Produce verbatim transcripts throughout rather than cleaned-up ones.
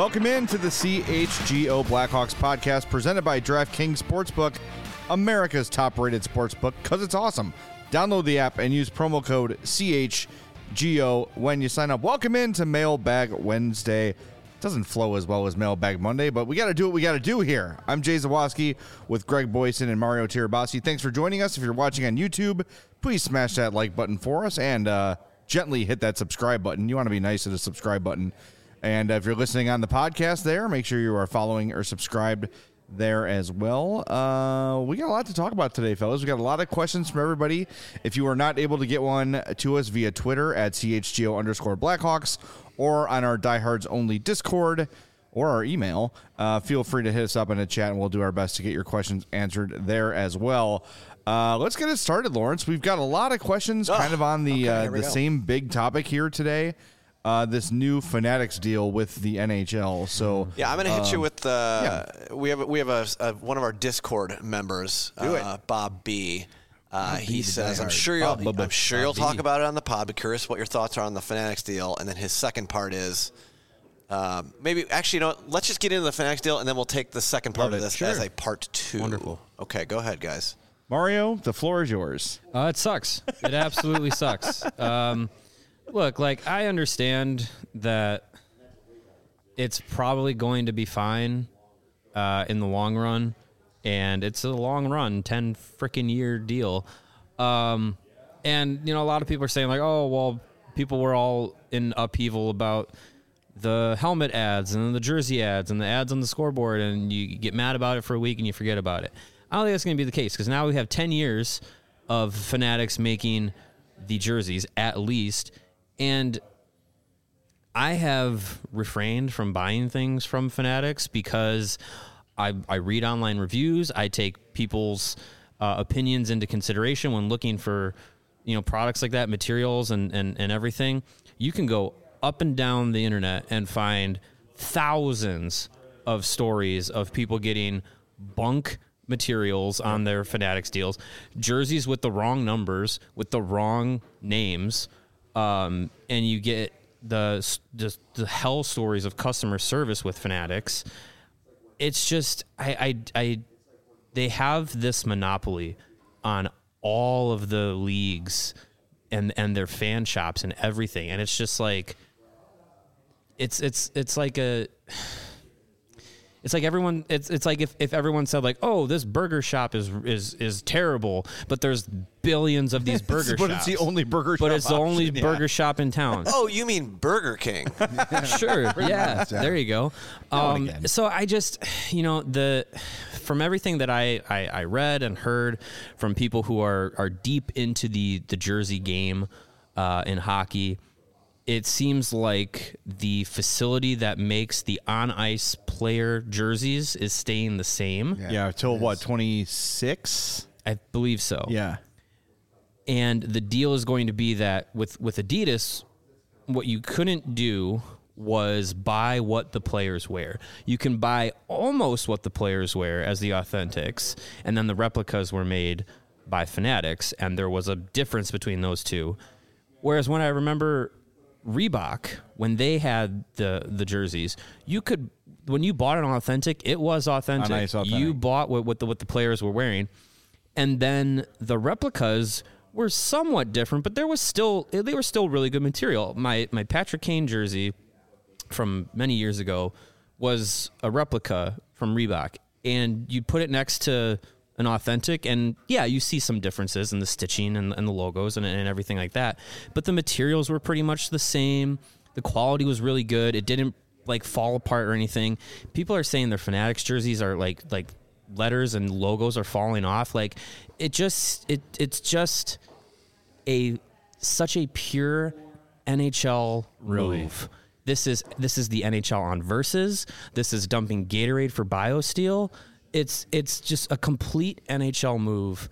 Welcome in to the C H G O Blackhawks podcast presented by DraftKings Sportsbook, America's top-rated sportsbook, because it's awesome. Download the app and use promo code C H G O when you sign up. Welcome in to Mailbag Wednesday. Doesn't flow as well as Mailbag Monday, but we got to do what we got to do here. I'm Jay Zawoski with Greg Boyson and Mario Tirabassi. Thanks for joining us. If you're watching on YouTube, please smash that like button for us and uh, gently hit that subscribe button. You want to be nice to the subscribe button. And if you're listening on the podcast there, make sure you are following or subscribed there as well. Uh, we got a lot to talk about today, fellas. We got a lot of questions from everybody. If you are not able to get one to us via Twitter at C H G O underscore Blackhawks or on our Diehards Only Discord or our email, uh, feel free to hit us up in the chat and we'll do our best to get your questions answered there as well. Uh, let's get it started, Lawrence. We've got a lot of questions oh, kind of on the okay, uh, the go. same big topic here today. Uh, this new Fanatics deal with the N H L. So yeah, I'm going to hit um, you with uh, yeah. we have we have a, a one of our Discord members, uh, Bob B. Uh, Bob he B says, "I'm sure you'll Bob, I'm sure Bob you'll B. talk about it on the pod. But curious what your thoughts are on the Fanatics deal." And then his second part is uh, maybe actually, you know, what, let's just get into the Fanatics deal, and then we'll take the second part Love of this sure. as a part two. Wonderful. Okay, go ahead, guys. Mario, the floor is yours. Uh, it sucks. It absolutely sucks. Um, Look, like, I understand that it's probably going to be fine uh, in the long run, and it's a long run, ten freaking year deal. Um, and, you know, a lot of people are saying, like, oh, well, people were all in upheaval about the helmet ads and the jersey ads and the ads on the scoreboard, and you get mad about it for a week and you forget about it. I don't think that's going to be the case, because now we have ten years of Fanatics making the jerseys, at least. And I have refrained from buying things from Fanatics because I, I read online reviews. I take people's uh, opinions into consideration when looking for, you know, products like that, materials and, and, and everything. You can go up and down the internet and find thousands of stories of people getting bunk materials on their Fanatics deals, jerseys with the wrong numbers, with the wrong names. Um, and you get the just the hell stories of customer service with Fanatics. It's just I, I I they have this monopoly on all of the leagues and and their fan shops and everything, and it's just like it's it's it's like a. It's like everyone. It's it's like if, if everyone said, like, oh, this burger shop is is is terrible, but there's billions of these burger but shops. But it's the only burger. But shop it's the option, only yeah. burger shop in town. Oh, you mean Burger King? Sure. Yeah. Much, yeah. There you go. Um, so I just, you know, the from everything that I, I, I read and heard from people who are are deep into the the jersey game uh, in hockey. It seems like the facility that makes the on-ice player jerseys is staying the same. Yeah, yeah till what, twenty-six? I believe so. Yeah. And the deal is going to be that with, with Adidas, what you couldn't do was buy what the players wear. You can buy almost what the players wear as the authentics, and then the replicas were made by Fanatics, and there was a difference between those two. Whereas when I remember Reebok, when they had the the jerseys, you could when you bought an authentic, it was authentic. A nice authentic. You bought what, what the what the players were wearing, and then the replicas were somewhat different, but there was still they were still really good material. My my Patrick Kane jersey from many years ago was a replica from Reebok, and you'd put it next to an authentic, and yeah, you see some differences in the stitching and, and the logos and, and everything like that, but the materials were pretty much the same. The quality was really good. It didn't like fall apart or anything. People are saying their Fanatics jerseys are like like letters and logos are falling off. Like it just it it's just a such a pure N H L really move. This is this is the N H L on Versus. This is dumping Gatorade for BioSteel. It's it's just a complete N H L move.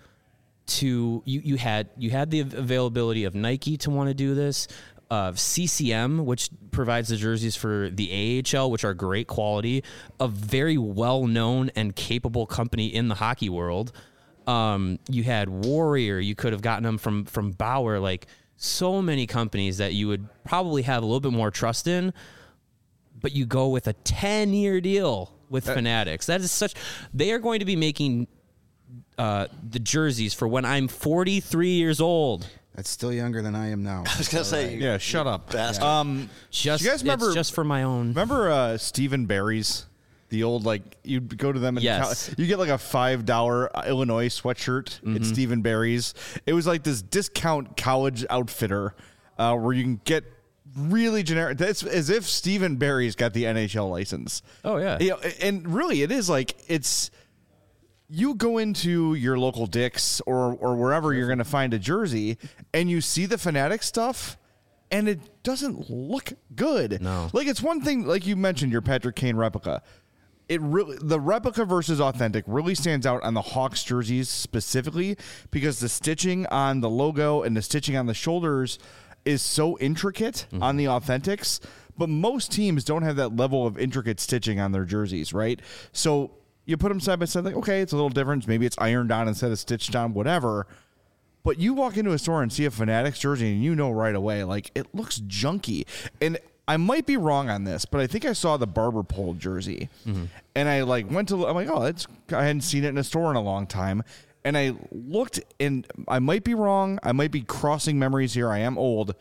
To you, you had you had the availability of Nike to want to do this, of C C M, which provides the jerseys for the A H L, which are great quality, a very well known and capable company in the hockey world. Um, you had Warrior, you could have gotten them from from Bauer, like so many companies that you would probably have a little bit more trust in. but you go with a ten-year deal with uh, Fanatics. That is such. They are going to be making uh, the jerseys for when I'm forty-three years old. That's still younger than I am now. I was gonna say, yeah. Shut up. Bastard. Um, just you guys remember? It's just for my own. Remember uh, Stephen Barry's, the old like you'd go to them and yes. you get like a five dollar Illinois sweatshirt. Mm-hmm. It's Stephen Barry's. It was like this discount college outfitter uh, where you can get really generic. That's as if Stephen Barry's got the N H L license. Oh yeah, you know, and really it is like it's. You go into your local Dick's or or wherever you're going to find a jersey, and you see the Fanatic stuff, and it doesn't look good. No, like it's one thing, like you mentioned, your Patrick Kane replica. It really the replica versus authentic really stands out on the Hawks jerseys specifically because the stitching on the logo and the stitching on the shoulders is so intricate mm-hmm. on the authentics. But most teams don't have that level of intricate stitching on their jerseys, right? So. You put them side by side, like, okay, it's a little different. Maybe it's ironed on instead of stitched on, whatever. But you walk into a store and see a Fanatics jersey, and you know right away, like, it looks junky. And I might be wrong on this, but I think I saw the Barber Pole jersey. Mm-hmm. And I, like, went to, I'm like, oh, it's, I hadn't seen it in a store in a long time. And I looked, and I might be wrong. I might be crossing memories here. I am old.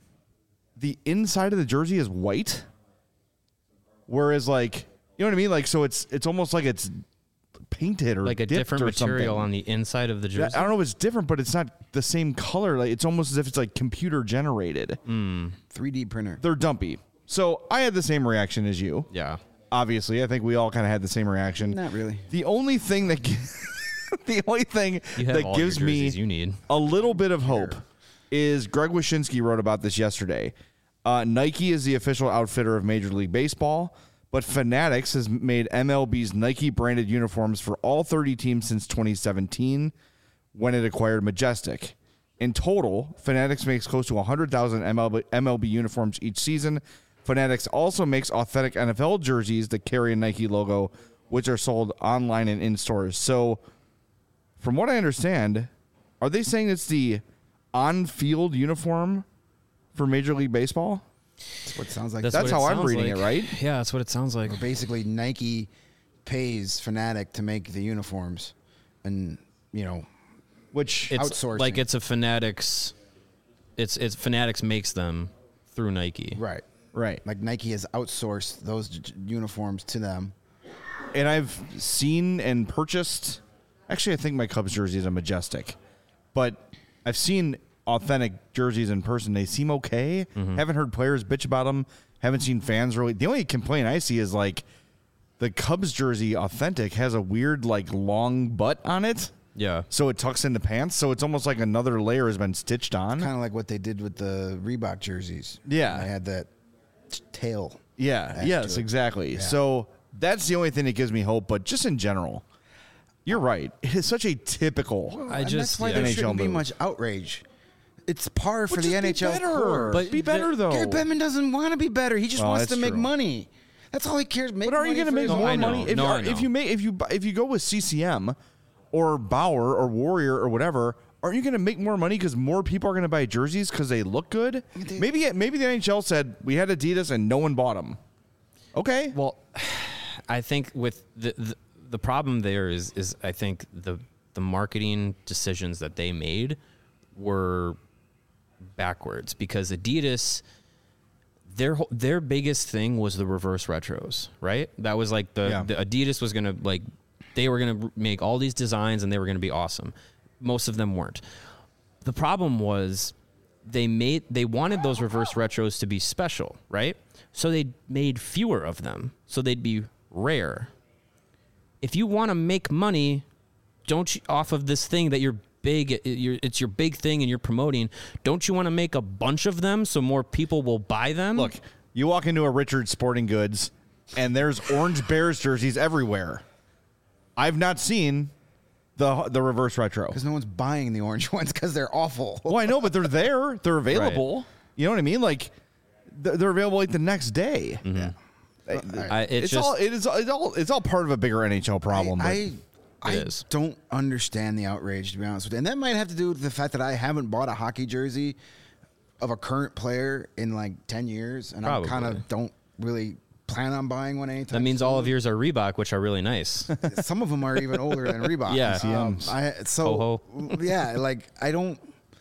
The inside of the jersey is white. Whereas, like... You know what I mean? Like, so it's it's almost like it's painted or like a different material something. on the inside of the jersey. I don't know if it's different, but it's not the same color. Like, it's almost as if it's like computer generated. Mm. three D printer. They're dumpy. So I had the same reaction as you. Yeah. Obviously, I think we all kind of had the same reaction. Not really. The only thing that the only thing that gives me you need. a little bit of hope is Greg Wyshynski wrote about this yesterday. Uh, Nike is the official outfitter of Major League Baseball. But Fanatics has made M L B's Nike-branded uniforms for all thirty teams since twenty seventeen when it acquired Majestic. In total, Fanatics makes close to one hundred thousand M L B uniforms each season. Fanatics also makes authentic N F L jerseys that carry a Nike logo, which are sold online and in stores. So, from what I understand, are they saying it's the on-field uniform for Major League Baseball? That's what it sounds like. That's, that's how I'm reading like. it, right? Yeah, that's what it sounds like. Or basically, Nike pays Fanatic to make the uniforms, and you know, which it's outsourcing. Like it's a Fanatics. It's it's Fanatics makes them through Nike. Right, right. Like Nike has outsourced those j- uniforms to them. And I've seen and purchased. Actually, I think my Cubs jersey is a Majestic, but I've seen authentic jerseys in person. They seem okay. Mm-hmm. Haven't heard players bitch about them. Haven't seen fans really. The only complaint I see is like the Cubs jersey authentic has a weird like long butt on it. Yeah. So it tucks into pants. So it's almost like another layer has been stitched on. Kind of like what they did with the Reebok jerseys. Yeah. They had that t- tail. Yeah. Yes, exactly. Yeah. So that's the only thing that gives me hope. But just in general, you're right. It is such a typical. Well, I and just that's why yeah. there N H L shouldn't move. be much outrage. It's par for Well, the just N H L be better. core. But be better though. Gary Bettman doesn't want to be better. He just Well, wants that's to make true. money. That's all he cares. Make But are you going to make No, more I know. money if, No, are, I know. if you make if you if you go with C C M or Bauer or Warrior or whatever? Aren't you going to make more money because more people are going to buy jerseys because they look good? Maybe maybe the N H L said we had Adidas and no one bought them. Okay. Well, I think with the the, the problem there is is I think the the marketing decisions that they made were backwards because Adidas their their biggest thing was the reverse retros, right? That was like the, yeah. the Adidas was going to like they were going to make all these designs and they were going to be awesome. Most of them weren't. The problem was they made they wanted those reverse retros to be special, right? So they made fewer of them so they'd be rare. If you want to make money, don't you off of this thing that you're big you're, it's your big thing and you're promoting, don't you want to make a bunch of them so more people will buy them? Look, you walk into a Richards Sporting Goods and there's Orange Bears jerseys everywhere. I've not seen the the reverse retro because no one's buying the orange ones because they're awful. Well, I know, but they're there. They're available. Right. You know what I mean? Like they're, they're available like the next day. Mm-hmm. Yeah. I, it's it's just, all it is. It's all it's all part of a bigger N H L problem. I but. I, I is. don't understand the outrage, to be honest with you, and that might have to do with the fact that I haven't bought a hockey jersey of a current player in like ten years, and I kind of don't really plan on buying one anytime. That means soon. all of yours are Reebok, which are really nice. Some of them are even older than Reebok. Yeah. Um, I, so Ho-ho. yeah, like I don't.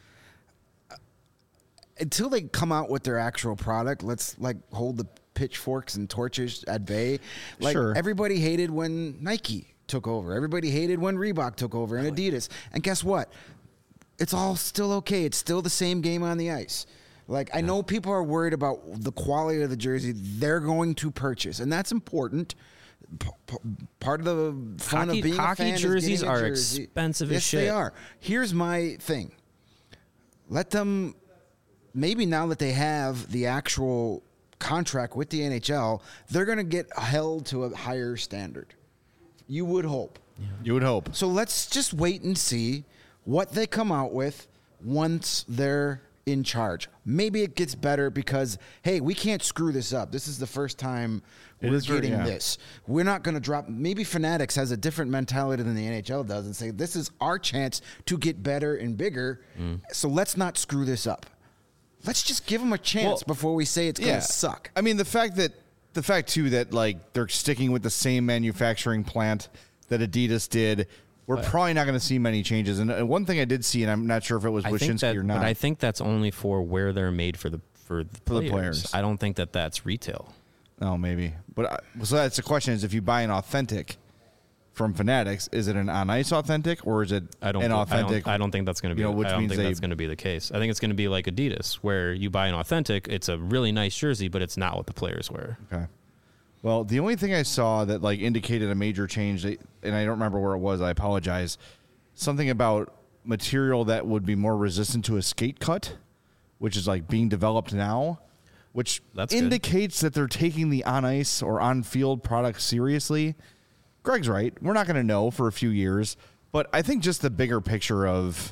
Until they come out with their actual product, let's like hold the pitchforks and torches at bay. Like Sure. everybody hated when Nike took over. Everybody hated when Reebok took over and Adidas. And guess what? It's all still okay. It's still the same game on the ice. Like I know people are worried about the quality of the jersey they're going to purchase, and that's important. P- p- part of the fun Hockey- of being hockey a fan jerseys is getting a are jersey. expensive as yes, shit. they are. Here's my thing. Let them. Maybe now that they have the actual contract with the N H L, they're going to get held to a higher standard. You would hope. You would hope. So let's just wait and see what they come out with once they're in charge. Maybe it gets better because, hey, we can't screw this up. This is the first time It we're is very- getting yeah. this. We're not going to drop. Maybe Fanatics has a different mentality than the N H L does and say, this is our chance to get better and bigger. Mm. So let's not screw this up. Let's just give them a chance Well, before we say it's going to suck. I mean, the fact that the fact too that like they're sticking with the same manufacturing plant that Adidas did, we're probably not going to see many changes. And uh, one thing I did see, and I'm not sure if it was I think Wyshynski that, or not. but I think that's only for where they're made for the for the, For the players. players. I don't think that that's retail. oh, maybe. But I, so that's the question: is if you buy an authentic from Fanatics, is it an on ice authentic or is it I don't. an I authentic? don't, I don't think that's going to be. you know, which I don't means think they- that's going to be the case. I think it's going to be like Adidas, where you buy an authentic. It's a really nice jersey, but it's not what the players wear. Okay. Well, the only thing I saw that like indicated a major change, that- and I don't remember where it was. I apologize. Something about material that would be more resistant to a skate cut, which is like being developed now, which That's good. indicates that they're taking the on ice or on field product seriously. Greg's right. We're not going to know for a few years, but I think just the bigger picture of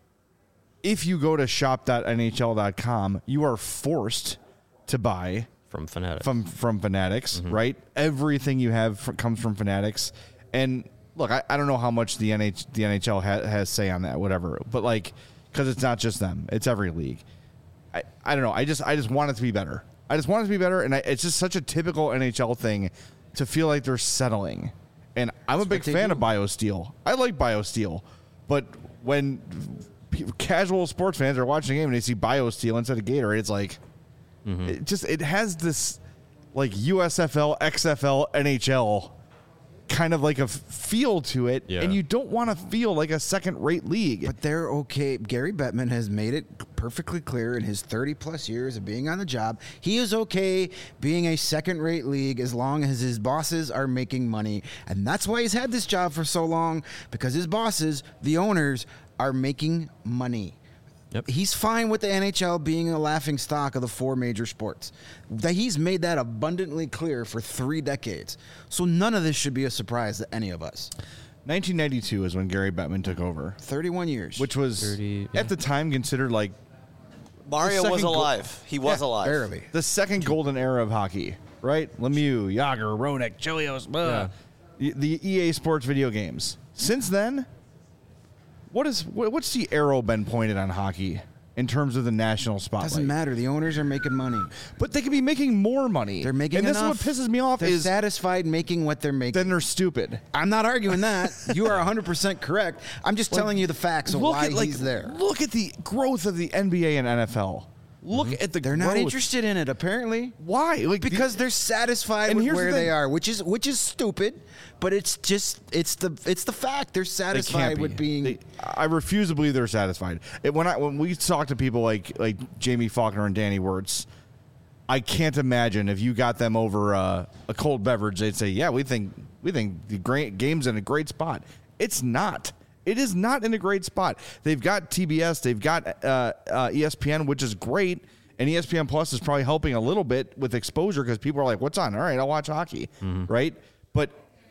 if you go to shop dot N H L dot com, you are forced to buy From Fanatics. from from Fanatics, right? Everything you have fr- comes from Fanatics. And look, I, I don't know how much the N H the N H L ha- has say on that, whatever. But like, because it's not just them; it's every league. I, I don't know. I just I just want it to be better. I just want it to be better, and I, it's just such a typical N H L thing to feel like they're settling. And I'm a big what they fan do. of BioSteel. I like BioSteel, but when pe- casual sports fans are watching a game and they see BioSteel instead of Gatorade, it's like it just it has this like U S F L, X F L, N H L kind of like a f- feel to it, Yeah. and you don't want to feel like a second-rate league. But they're okay. Gary Bettman has made it perfectly clear in his thirty plus years of being on the job. He is okay being a second rate league as long as his bosses are making money. And that's why he's had this job for so long, because his bosses, the owners, are making money. Yep. He's fine with the N H L being a laughing stock of the four major sports. That he's made that abundantly clear for three decades. So none of this should be a surprise to any of us. nineteen ninety-two is when Gary Bettman took over, thirty-one years. which was thirty, yeah. at the time considered like Mario The was second goal- alive. He was Yeah, alive. barely. the second golden era of hockey, right? Lemieux, Yager, Roenick, Chelios, blah. Y- the E A Sports video games. Since then, what is what, what's the arrow been pointed on hockey in terms of the national spotlight? Doesn't matter. The owners are making money. But they could be making more money. They're making and this enough. is what pisses me off They're is satisfied making what they're making. then they're stupid. I'm not arguing that. You are one hundred percent correct. I'm just telling you the facts of look why at like he's there. look at the growth of the N B A and N F L. Look at the They're growth. not interested in it, apparently. Why? Like the- Because they're satisfied And with here's the where they thing. are, which is which is stupid, but it's just it's the it's the fact. They're They satisfied can't be. with being They- I refuse to believe they're satisfied. It, when I when we talk to people like like Jamie Faulkner and Danny Wirtz, I can't imagine if you got them over uh, a cold beverage, they'd say, "Yeah, we think we think the great game's in a great spot." It's not. It is not in a great spot. They've got T B S, they've got uh, uh, E S P N, which is great, and E S P N Plus is probably helping a little bit with exposure because people are like, "What's on? All right, I'll watch hockey." Right, but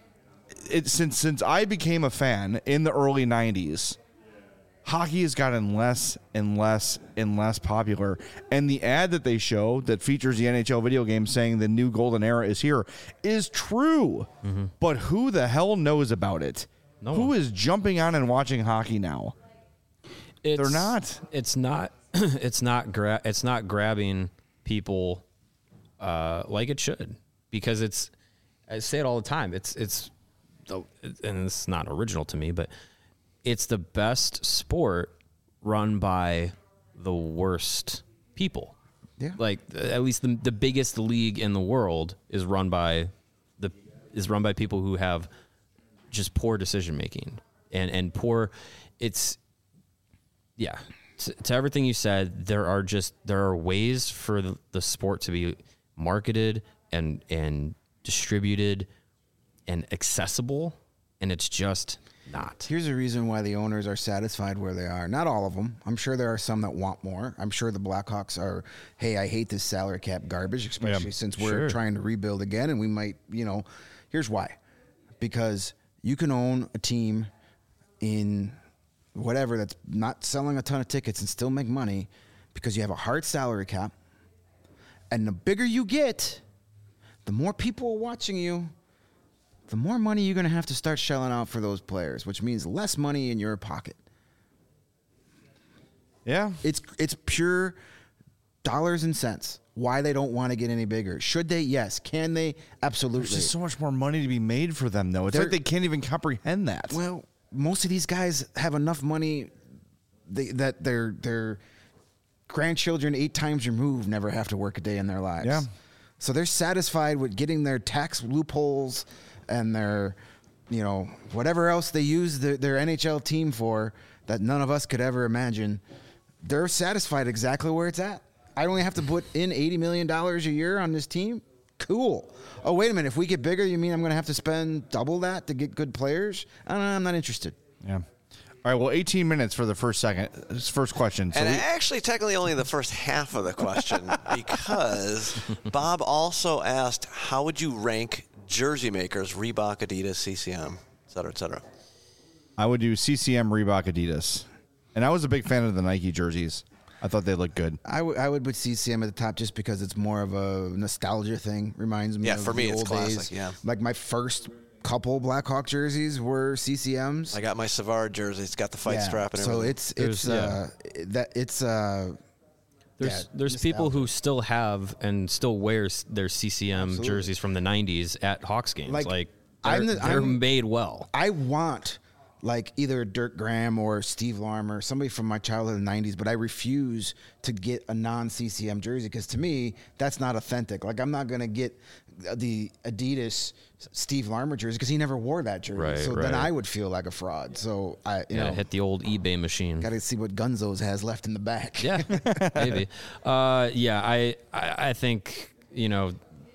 it, since since I became a fan in the early nineties, hockey has gotten less and less and less popular. And the ad that they show that features the N H L video game saying the new golden era is here is true. But who the hell knows about it? No Who one. is jumping on and watching hockey now? It's, They're not. It's not. It's not. Gra- it's not grabbing people uh, like it should. because it's, I say it all the time. It's, it's, the, and it's not original to me, but it's the best sport run by the worst people. Yeah. Like at least the, the biggest league in the world is run by the, is run by people who have just poor decision making and, and poor it's, yeah. To, to everything you said, there are just, there are ways for the, the sport to be marketed and, and distributed and accessible. And it's just not. Here's a reason why the owners are satisfied where they are. Not all of them. I'm sure there are some that want more. I'm sure the Blackhawks are, hey, I hate this salary cap garbage, especially yeah, since we're sure. trying to rebuild again. And we might, you know, here's why. Because you can own a team in whatever that's not selling a ton of tickets and still make money because you have a hard salary cap. And the bigger you get, the more people are watching you, the more money you're going to have to start shelling out for those players, which means less money in your pocket. Yeah. It's it's pure dollars and cents. Why they don't want to get any bigger. Should they? Yes. Can they? Absolutely. There's just so much more money to be made for them, though. It's They're, like they can't even comprehend that. Well, most of these guys have enough money they, that their their grandchildren eight times removed never have to work a day in their lives. Yeah. So they're satisfied with getting their tax loopholes and their, you know, whatever else they use their, their N H L team for that none of us could ever imagine. They're satisfied exactly where it's at. I only have to put in eighty million dollars a year on this team. Cool. Oh, wait a minute. If we get bigger, you mean I'm going to have to spend double that to get good players? I don't know. I'm not interested. Yeah. All right. Well, eighteen minutes for the first second, first question. So and we, actually, technically, only the first half of the question because Bob also asked, how would you rank jersey makers, Reebok, Adidas, C C M, et cetera, et cetera? I would do C C M, Reebok, Adidas. And I was a big fan of the Nike jerseys. I thought they looked good. I, w- I would put C C M at the top just because it's more of a nostalgia thing. Reminds me yeah, of for me, the it's old classic, days. Yeah. Like my first couple Blackhawk jerseys were C C Ms. I got my Savard jersey. It's got the fight yeah. strap and so everything. it's it's uh, yeah. that it's uh There's yeah, there's nostalgia. people who still have and still wear their C C M Absolutely. jerseys from the nineties at Hawks games. Like, Like, they're, I'm the- they're I'm- made well. I want like either Dirk Graham or Steve Larmer, somebody from my childhood in the nineties, but I refuse to get a non-C C M jersey because to me, that's not authentic. Like I'm not going to get the Adidas Steve Larmer jersey because he never wore that jersey. Right, so right. then I would feel like a fraud. So I, you Yeah, know, hit the old eBay machine. got to see what Gunzo's has left in the back. Yeah, maybe. Uh, yeah, I, I I think, you know,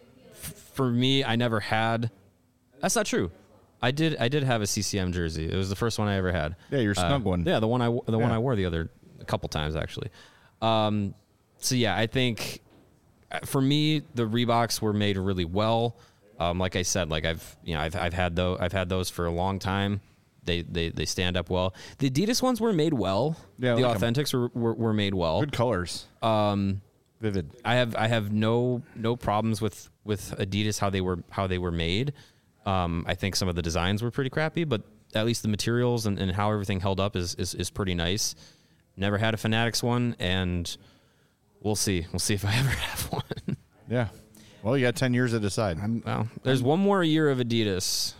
f- for me, I never had. That's not true. I did I did have a C C M jersey. It was the first one I ever had. Yeah, your snug uh, one. Yeah, the one I the one Yeah. I wore the other a couple times actually. Um, so yeah, I think uh, for me the Reeboks were made really well. Um, like I said, like I've you know I've I've had those I've had those for a long time. They they they stand up well. The Adidas ones were made well. Yeah, the like 'em. Authentics were, were were made well. Good colors. Um, Vivid. I have I have no no problems with, with Adidas how they were how they were made. Um, I think some of the designs were pretty crappy, but at least the materials and, and how everything held up is, is is pretty nice. Never had a Fanatics one, and we'll see. We'll see if I ever have one. Yeah. Well, you got ten years to decide. I'm, Well, there's one more year of Adidas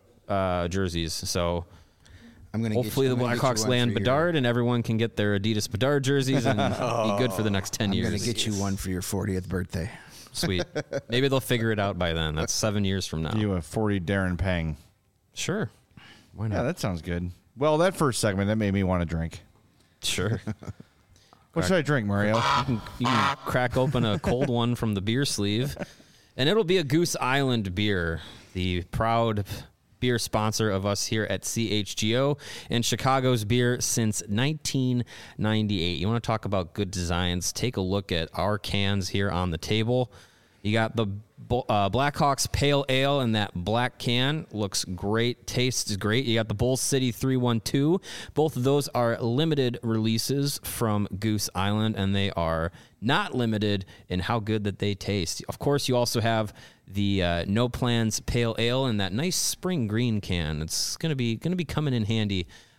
uh, jerseys, so I'm gonna hopefully get you, the I'm gonna get Blackhawks you one land for your- Bedard, and everyone can get their Adidas Bedard jerseys and be good for the next ten I'm years. gonna get you one for your fortieth birthday. Sweet. Maybe they'll figure it out by then. That's seven years from now. You a forty Darren Pang. Sure. Why not? Yeah, that sounds good. Well, that first segment, that made me want to drink. Sure. What should I drink, Mario? You can, you can crack open a cold one from the beer sleeve, and it'll be a Goose Island beer, the proud beer sponsor of us here at C H G O and Chicago's beer since nineteen ninety-eight. You want to talk about good designs? Take a look at our cans here on the table. You got the uh, Blackhawks Pale Ale in that black can. Looks great. Tastes great. You got the Bull City three one two. Both of those are limited releases from Goose Island, and they are not limited in how good that they taste. Of course, you also have the uh, No Plans Pale Ale in that nice spring green can. It's gonna be gonna be coming in handy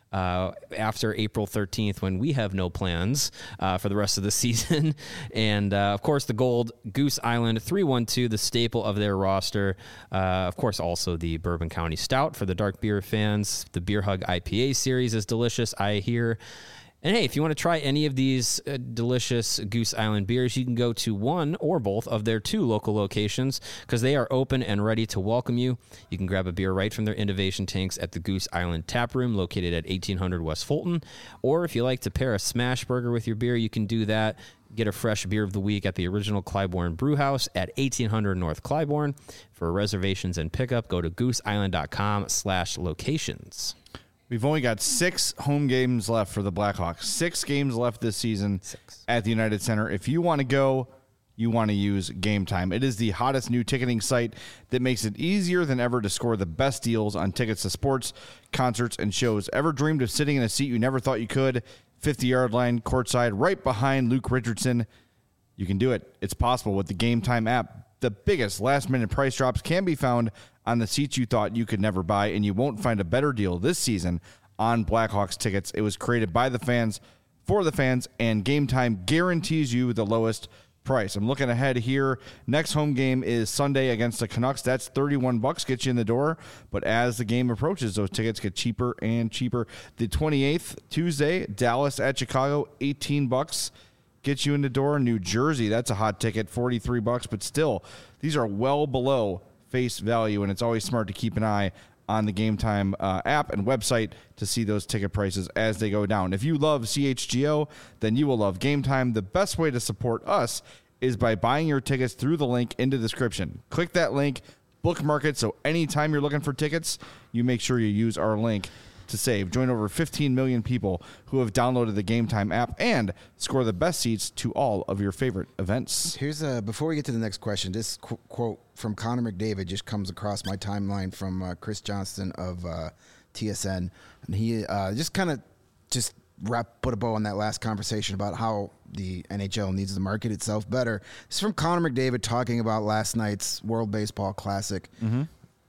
uh, after April thirteenth when we have no plans uh, for the rest of the season. And, uh, of course, the gold, Goose Island three one two, the staple of their roster. Uh, of course, also the Bourbon County Stout for the dark beer fans. The Beer Hug I P A series is delicious, I hear. And hey, if you want to try any of these uh, delicious Goose Island beers, you can go to one or both of their two local locations because they are open and ready to welcome you. You can grab a beer right from their innovation tanks at the Goose Island Tap Room located at eighteen hundred West Fulton. Or if you like to pair a smash burger with your beer, you can do that. Get a fresh beer of the week at the original Clybourne Brewhouse at eighteen hundred North Clybourne. For reservations and pickup, go to gooseisland.com slash locations. We've only got six home games left for the Blackhawks. Six games left this season six. At the United Center. If you want to go, you want to use Game Time. It is the hottest new ticketing site that makes it easier than ever to score the best deals on tickets to sports, concerts, and shows. Ever dreamed of sitting in a seat you never thought you could? fifty-yard line, courtside, right behind Luke Richardson. You can do it. It's possible with the Game Time app. The biggest last-minute price drops can be found on the seats you thought you could never buy, and you won't find a better deal this season on Blackhawks tickets. It was created by the fans, for the fans, and Game Time guarantees you the lowest price. I'm looking ahead here. Next home game is Sunday against the Canucks. That's thirty-one bucks, gets you in the door. But as the game approaches, those tickets get cheaper and cheaper. The twenty-eighth, Tuesday, Dallas at Chicago, eighteen bucks. Get you in the door. New Jersey, that's a hot ticket, forty-three bucks, but still, these are well below face value, and it's always smart to keep an eye on the Game Time uh, app and website to see those ticket prices as they go down. If you love C H G O, then you will love Game Time. The best way to support us is by buying your tickets through the link in the description. Click that link, bookmark it, so anytime you're looking for tickets, you make sure you use our link to save. Join over fifteen million people who have downloaded the Game Time app and score the best seats to all of your favorite events. Here's a, before we get to the next question, this qu- quote from Connor McDavid just comes across my timeline from uh, Chris Johnston of uh, T S N. And he uh, just kind of just wrap, put a bow on that last conversation about how the N H L needs to market itself better. This is from Connor McDavid talking about last night's World Baseball Classic. Mm-hmm.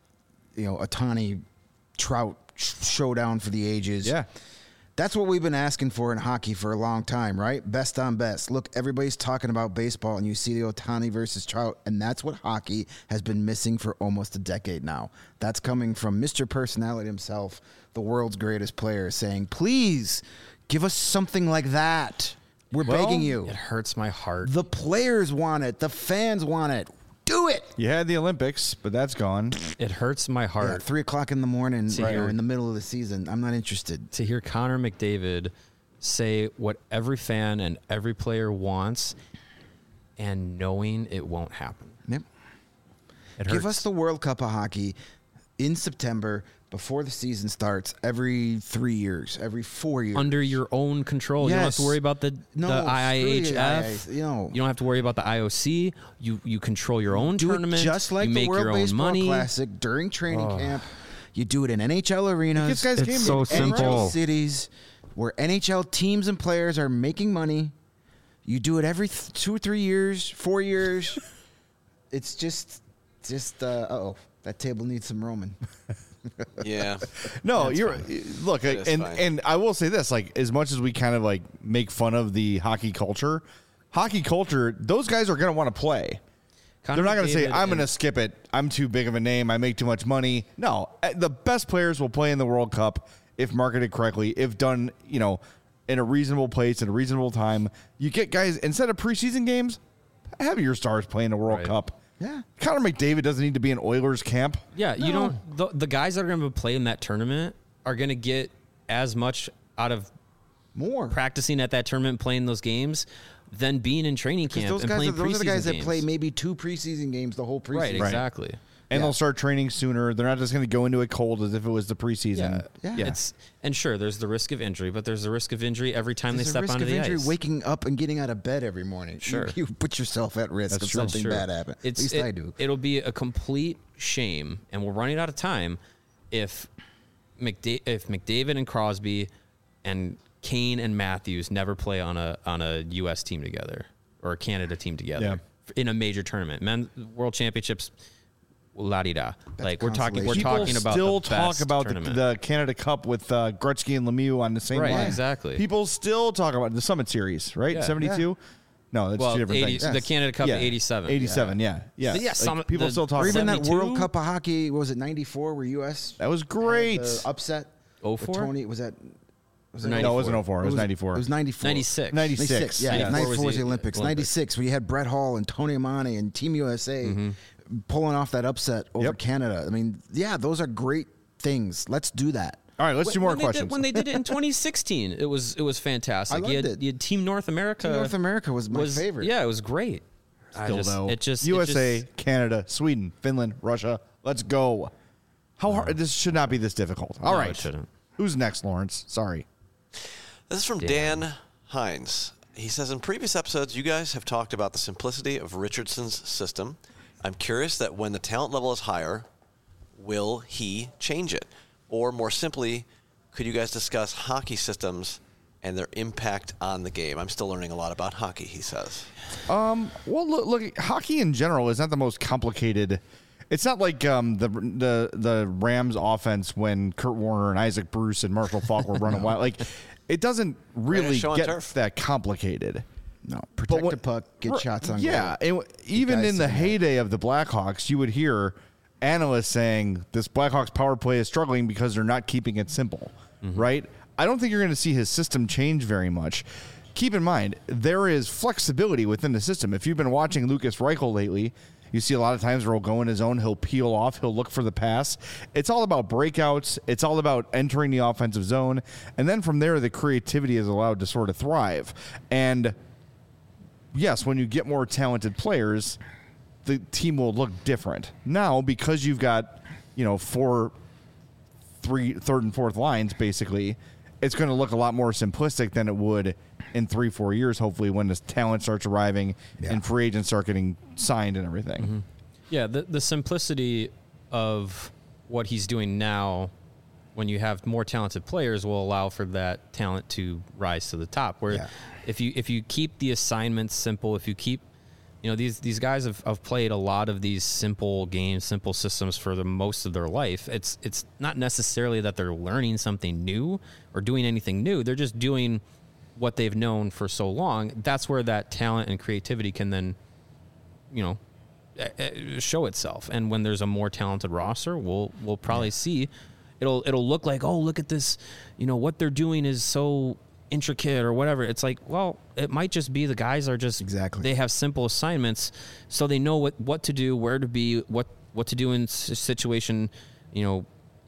You know, Ohtani, Trout, showdown for the ages. Yeah. That's what we've been asking for in hockey for a long time, right? Best on best. Look, everybody's talking about baseball, and you see the Ohtani versus Trout, and that's what hockey has been missing for almost a decade now. That's coming from Mister Personality himself, the world's greatest player, saying, please give us something like that. We're well, begging you. It hurts my heart. The players want it. The fans want it. Do it. You had the Olympics, but that's gone. It hurts my heart. Yeah, three o'clock in the morning, To right, hear- or in the middle of the season. I'm not interested. to hear Connor McDavid say what every fan and every player wants and knowing it won't happen. Yep. It Give hurts. us the World Cup of Hockey in September before the season starts every three years, every four years. under your own control. You don't have to Yes. worry about the, No, the screw I I H the F. I I- you know. You don't have to worry about the I O C. You you control your own do tournament. it just like you the make World your own Baseball money. Classic during training camp. You do it in N H L arenas. Gets guys It's game so day. N H L simple. cities where N H L teams and players are making money. You do it every th- two or three years, four years. It's just, just, uh oh, that table needs some Roman. Yeah. No, That's you're fine. look, It is and fine. and I will say this: like, as much as we kind of like make fun of the hockey culture, hockey culture, those guys are going to want to play. Connor They're not going to say, McDavid "I'm going to and- skip it. I'm too big of a name. I make too much money." No, uh, the best players will play in the World Cup if marketed correctly, if done, you know, in a reasonable place at a reasonable time. You get guys instead of preseason games, have your stars play in the World Right. Cup. Yeah. Connor McDavid doesn't need to be in Oilers camp. Yeah, you No. don't. The, the guys that are going to play in that tournament are going to get as much out of More. practicing at that tournament, playing those games, than being in training camp Those and guys, playing are, those are the preseason guys that games. play maybe two preseason games the whole preseason. Right, exactly. And Yeah. they'll start training sooner. They're not just going to go into it cold as if it was the preseason. Yeah. Yeah. It's and sure, there's the risk of injury, but there's the risk of injury every time There's they a step risk onto of the injury ice. waking up and getting out of bed every morning. Sure. You, you put yourself at risk That's of true. something Sure. bad happen. It's, At least it, I do. It'll be a complete shame, and we're running out of time if McDa- if McDavid and Crosby and Kane and Matthews never play on a on a U S team together or a Canada team together Yeah. in a major tournament. Men World Championships, la di da. Like we're talking, we're People talking about still the talk best about the, tournament. the Canada Cup with uh, Gretzky and Lemieux on the same Right, line. exactly. People still talk about the Summit Series, right? Yeah. seventy-two. No, that's well, two different eighty, things. the Canada Cup Yeah. eighty-seven. eighty-seven, yeah, yeah. Yeah, Like, some- people the- still talk Or about even that. that World seventy-two? Cup of Hockey, what was it, ninety-four, where U S That was great. had the upset? oh with Four? Tony, was that? Was it No, it wasn't oh four. It was ninety-four. It was ninety-four. ninety-six. ninety-six. Yeah, Yeah. ninety-four was the the Olympics. Olympics. ninety-six, where you had Brett Hall and Tony Amani and Team U S A pulling off that upset over Yep. Canada. I mean, yeah, those are great things. Let's do that. All right, let's do more when questions. They did, when they did it in twenty sixteen, it was it was fantastic. I you, loved had, it. you had Team North America. Team North America was my favorite. Yeah, it was great. I Still just, though, it just U S A, It just, Canada, Sweden, Finland, Russia. Let's go. How hard? This should not be this difficult. All No, right, it shouldn't. Who's next, Lawrence? Sorry. This is from Dan Hines. He says, in previous episodes, you guys have talked about the simplicity of Richardson's system. I'm curious that when the talent level is higher, will he change it? Or more simply, could you guys discuss hockey systems and their impact on the game? I'm still learning a lot about hockey, he says. Um, well, look, look, hockey in general is not the most complicated. It's not like um, the the the Rams offense when Kurt Warner and Isaac Bruce and Marshall Faulk were running wild. Like, it doesn't really show on get turf. that complicated. No, protect what- the puck, get Right, shots on Yeah, goal. and even guys in the sitting there. heyday of the Blackhawks, you would hear analysts saying this Blackhawks power play is struggling because they're not keeping it simple, right? I don't think you're going to see his system change very much. Keep in mind, there is flexibility within the system. If you've been watching Lucas Reichel lately, you see a lot of times where he'll go in his own, he'll peel off, he'll look for the pass. It's all about breakouts. It's all about entering the offensive zone. And then from there, the creativity is allowed to sort of thrive. And yes, when you get more talented players, the team will look different. Now, because you've got, you know, four, three, third and fourth lines, basically, it's going to look a lot more simplistic than it would in three, four years, hopefully, when this talent starts arriving Yeah. and free agents start getting signed and everything. yeah, the the simplicity of what he's doing now, when you have more talented players, will allow for that talent to rise to the top. Where Yeah. if you if you keep the assignments simple, if you keep you know these these guys have, have played a lot of these simple games, simple systems for the most of their life. It's it's not necessarily that they're learning something new or doing anything new. They're just doing what they've known for so long. That's where that talent and creativity can then, you know, uh, show itself. And when there's a more talented roster, we'll we'll probably see it'll it'll look like, oh, look at this, you know, what they're doing is so intricate or whatever. It's like, well, it might just be the guys are just Exactly. they have simple assignments, so they know what what to do, where to be, what what to do in s- situation, you know,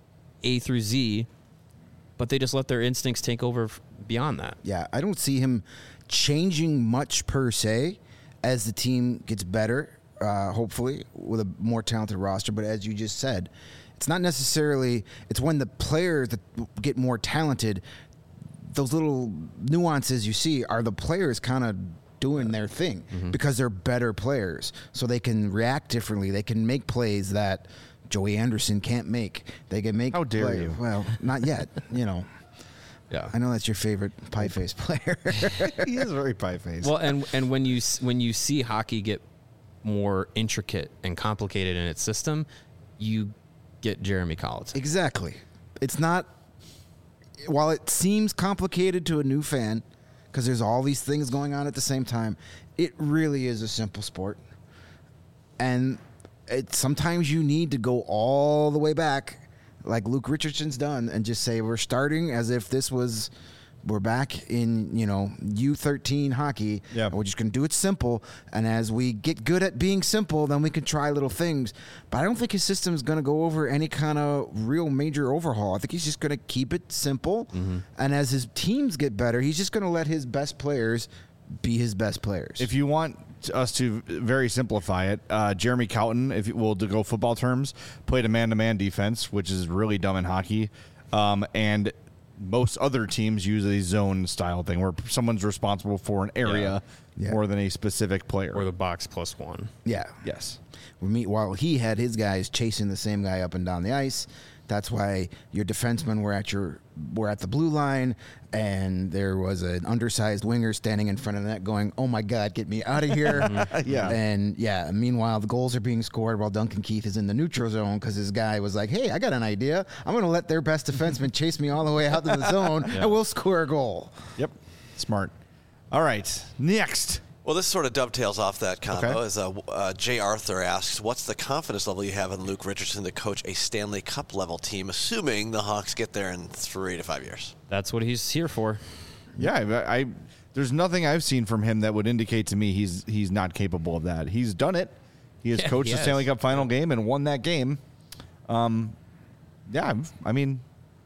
A through Z, but they just let their instincts take over f- beyond that. Yeah, I don't see him changing much per se as the team gets better, uh, hopefully, with a more talented roster. But as you just said, it's not necessarily, it's when the players that get more talented, those little nuances you see are the players kind of doing their thing because they're better players. So they can react differently. They can make plays that Joey Anderson can't make. They can make. How dare play- you. Well, not yet, you know. Yeah. I know that's your favorite pie face player. He is very pie-faced. Well, and and when you s- when you see hockey get more intricate and complicated in its system, you get Jeremy Collins. Exactly. It's not, while it seems complicated to a new fan, because there's all these things going on at the same time, it really is a simple sport. And it, sometimes you need to go all the way back, like Luke Richardson's done, and just say, we're starting as if this was, we're back in, you know, U thirteen hockey. Yeah. And we're just going to do it simple. And as we get good at being simple, then we can try little things. But I don't think his system is going to go over any kind of real major overhaul. I think he's just going to keep it simple. And as his teams get better, he's just going to let his best players be his best players. If you want us to very simplify it, uh, Jeremy Cowton, if you will, to go football terms, played a man-to-man defense, which is really dumb in hockey. Um, and most other teams use a zone style thing where someone's responsible for an area Yeah. more than a specific player. Or the box plus one. yeah. yes. We meet, while he had his guys chasing the same guy up and down the ice, That's why your defensemen were at your were at the blue line, and there was an undersized winger standing in front of the net going, "Oh my God, get me out of here!" Yeah. And yeah, meanwhile the goals are being scored while Duncan Keith is in the neutral zone because his guy was like, "Hey, I got an idea. I'm going to let their best defenseman chase me all the way out to the zone, yeah. and we'll score a goal." Yep, smart. All right, next. Well, this sort of dovetails off that combo. Okay. As uh, uh, Jay Arthur asks, what's the confidence level you have in Luke Richardson to coach a Stanley Cup level team, assuming the Hawks get there in three to five years? That's what he's here for. Yeah, I, I there's nothing I've seen from him that would indicate to me he's he's not capable of that. He's done it. He has Yeah, coached he the has. Stanley Cup final game and won that game. Um, yeah, I mean,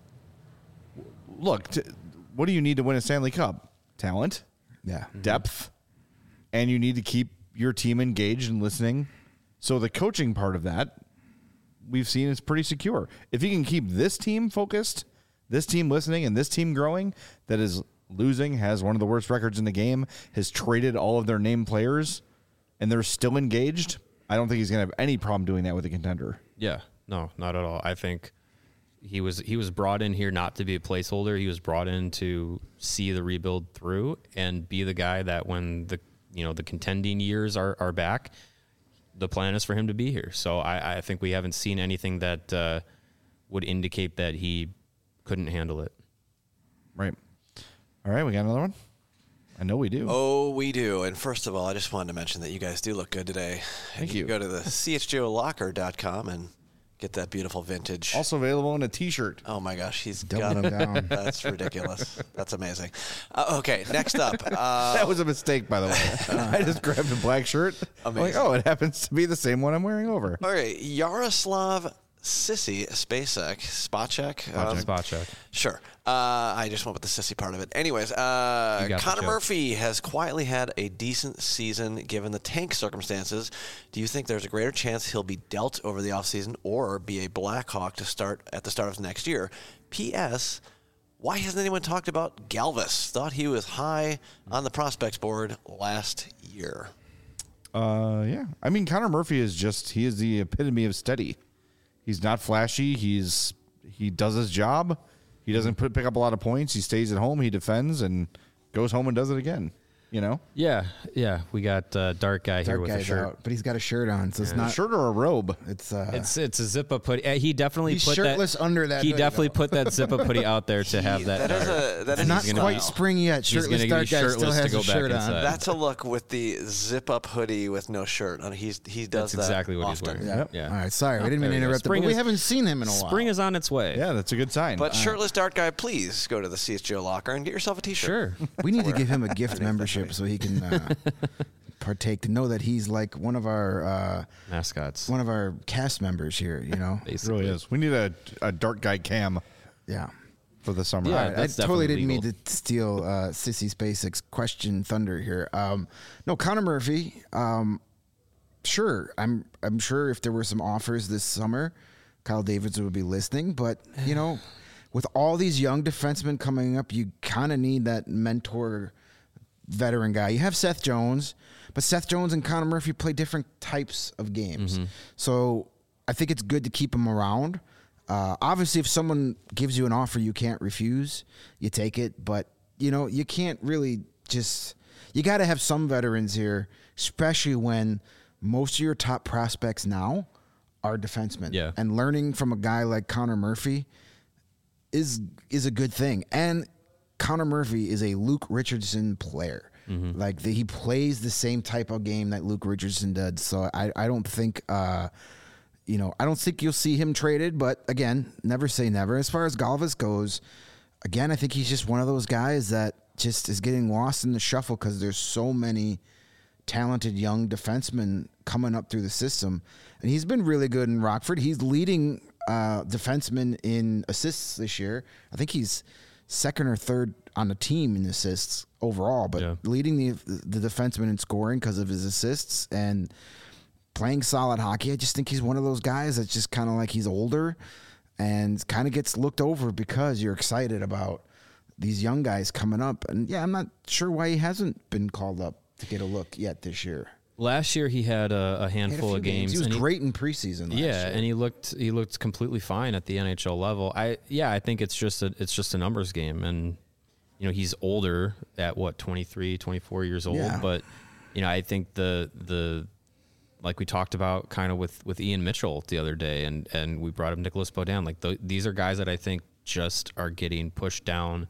look, t- what do you need to win a Stanley Cup? Talent, Yeah. depth, and you need to keep your team engaged and listening. So the coaching part of that, we've seen is pretty secure. If you can keep this team focused, this team listening, and this team growing, that is losing, has one of the worst records in the game, has traded all of their named players, and they're still engaged, I don't think he's going to have any problem doing that with a contender. Yeah, no, not at all. I think he was he was brought in here not to be a placeholder. He was brought in to see the rebuild through and be the guy that when the you know the contending years are, are back, the plan is for him to be here. So I, I think we haven't seen anything that uh, would indicate that he couldn't handle it. Right. All right, we got another one? I know we do. Oh, we do. And first of all, I just wanted to mention that you guys do look good today. Thank you. you. Can go to the C H G O locker dot com and get that beautiful vintage. Also available in a T-shirt. Oh, my gosh. He's Doubling got him down. That's ridiculous. That's amazing. Uh, okay, next up. Uh, That was a mistake, by the way. I just grabbed a black shirt. I'm like, Amazing. oh, it happens to be the same one I'm wearing over. all right, Yaroslav Sissy Spacek, Spacek. Um, Spot check. Sure. Uh, I just went with the sissy part of it. Anyways, uh, You got the Connor joke. Murphy has quietly had a decent season given the tank circumstances. Do you think there's a greater chance he'll be dealt over the offseason or be a Blackhawk to start at the start of next year? P S. Why hasn't anyone talked about Galvis? Thought he was high on the prospects board last year. Uh, yeah. I mean, Connor Murphy is just, he is the epitome of steady. He's not flashy. He's, he does his job. He doesn't put, pick up a lot of points. He stays at home. He defends and goes home and does it again. You know? Yeah, yeah. We got uh, Dark Guy here Dark with a guy's shirt. out, but he's got a shirt on, so it's A not. shirt or a robe? It's uh, It's it's a zip up hoodie. Uh, he definitely He's put shirtless that, under that He hoodie, definitely though. put that zip up hoodie out there to have that. That is a that is not he's gonna quite be- spring yet. he's Shirtless gonna Dark be guy still shirtless to has go a back shirt on. inside. That's a look with the zip up hoodie with no shirt. I mean, he's he does That's that exactly what often. he's wearing. Yeah. Yeah. All right. Sorry, we didn't mean to There we go. interrupt. But Spring we is- haven't seen him in a while. Spring is on its way. Yeah, that's a good sign. But shirtless dark guy, please go to the C S G O locker and get yourself a T-shirt. Sure. We need to give him a gift membership so he can uh, partake. To know that he's like one of our uh, Mascots. one of our cast members here. You know. It Basically. really is. We need a, a dark guy cam Yeah. for the summer. Yeah, All I right. that's totally definitely didn't mean legal. to steal uh, Sissy SpaceX question thunder here. Um, no, Connor Murphy. Um, sure, I'm. I'm sure if there were some offers this summer, Kyle Davidson would be listening. But you know, with all these young defensemen coming up, you kind of need that mentor, veteran guy. You have Seth Jones, but Seth Jones and Connor Murphy play different types of games. So I think it's good to keep them around. Uh, obviously, if someone gives you an offer you can't refuse, you take it. But, you know, you can't really just – you got to have some veterans here, especially when most of your top prospects now are defensemen. Yeah. And learning from a guy like Connor Murphy is is a good thing. And Connor Murphy is a Luke Richardson player. Mm-hmm. Like, the, he plays the same type of game that Luke Richardson did. So I, I don't think uh, – you know, I don't think you'll see him traded, but again, never say never. As far as Galvis goes, again, I think he's just one of those guys that just is getting lost in the shuffle because there's so many talented young defensemen coming up through the system. And he's been really good in Rockford. He's leading uh, defenseman in assists this year. I think he's second or third on the team in assists overall, but Yeah. leading the the defenseman in scoring because of his assists and playing solid hockey. I just think he's one of those guys that's just kind of like he's older and kind of gets looked over because you're excited about these young guys coming up. And yeah, I'm not sure why he hasn't been called up to get a look yet this year. Last year he had a, a handful had a of games. games. He was and great in preseason. Last yeah, year. and he looked he looked completely fine at the N H L level. I yeah, I think it's just a it's just a numbers game, and you know he's older at what twenty-three, twenty-four years old, Yeah. but you know I think the the like we talked about kind of with with Ian Mitchell the other day, and and we brought up Nicholas Beaudin. Like th- these are guys that I think just are getting pushed down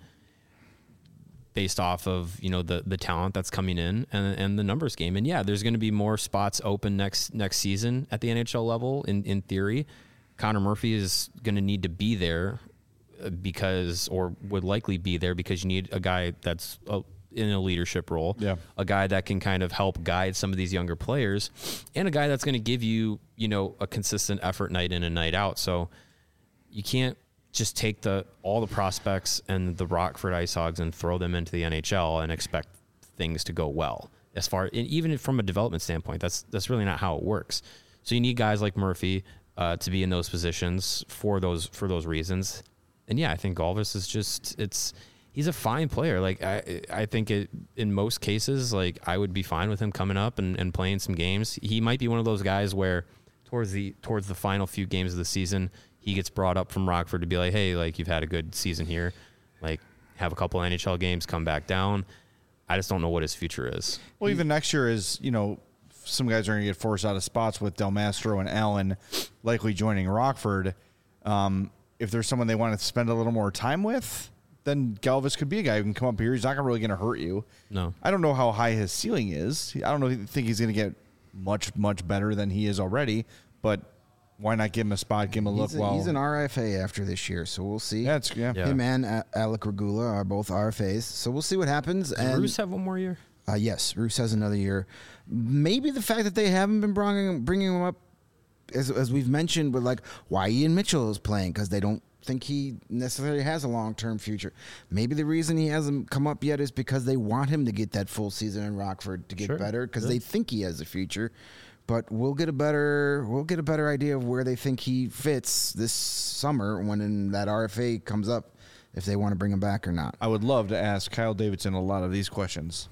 based off of, you know, the the talent that's coming in and and the numbers game. And yeah, there's going to be more spots open next next season at the N H L level in in theory. Connor Murphy is going to need to be there because or would likely be there because you need a guy that's a, in a leadership role, yeah. a guy that can kind of help guide some of these younger players, and a guy that's going to give you, you know, a consistent effort night in and night out. So you can't just take the all the prospects and the Rockford Ice Hogs and throw them into the N H L and expect things to go well. As far and even from a development standpoint, that's that's really not how it works. So you need guys like Murphy uh, to be in those positions for those for those reasons. And yeah, I think Galvis is just it's he's a fine player. Like I I think it in most cases, like I would be fine with him coming up and, and playing some games. He might be one of those guys where towards the towards the final few games of the season, he gets brought up from Rockford to be like, hey, like you've had a good season here, like have a couple N H L games, come back down. I just don't know what his future is. Well, even next year is, you know, some guys are going to get forced out of spots with Del Mastro and Allen likely joining Rockford. Um, if there's someone they want to spend a little more time with, then Galvis could be a guy who can come up here. He's not really going to hurt you. No. I don't know how high his ceiling is. I don't know. think he's going to get much, much better than he is already, but why not give him a spot, give him a look? He's, a, while he's an R F A after this year, so we'll see. Yeah, it's, yeah. Yeah. Him and uh, Alec Regula are both R F As, so we'll see what happens. Does and Roos have one more year? Uh, yes, Roos has another year. Maybe the fact that they haven't been bringing, bringing him up, as, as we've mentioned, with like why Ian Mitchell is playing, because they don't think he necessarily has a long-term future. Maybe the reason he hasn't come up yet is because they want him to get that full season in Rockford to get Sure. better, because Yeah. they think he has a future. But we'll get a better we'll get a better idea of where they think he fits this summer when in that R F A comes up, if they want to bring him back or not. I would love to ask Kyle Davidson a lot of these questions.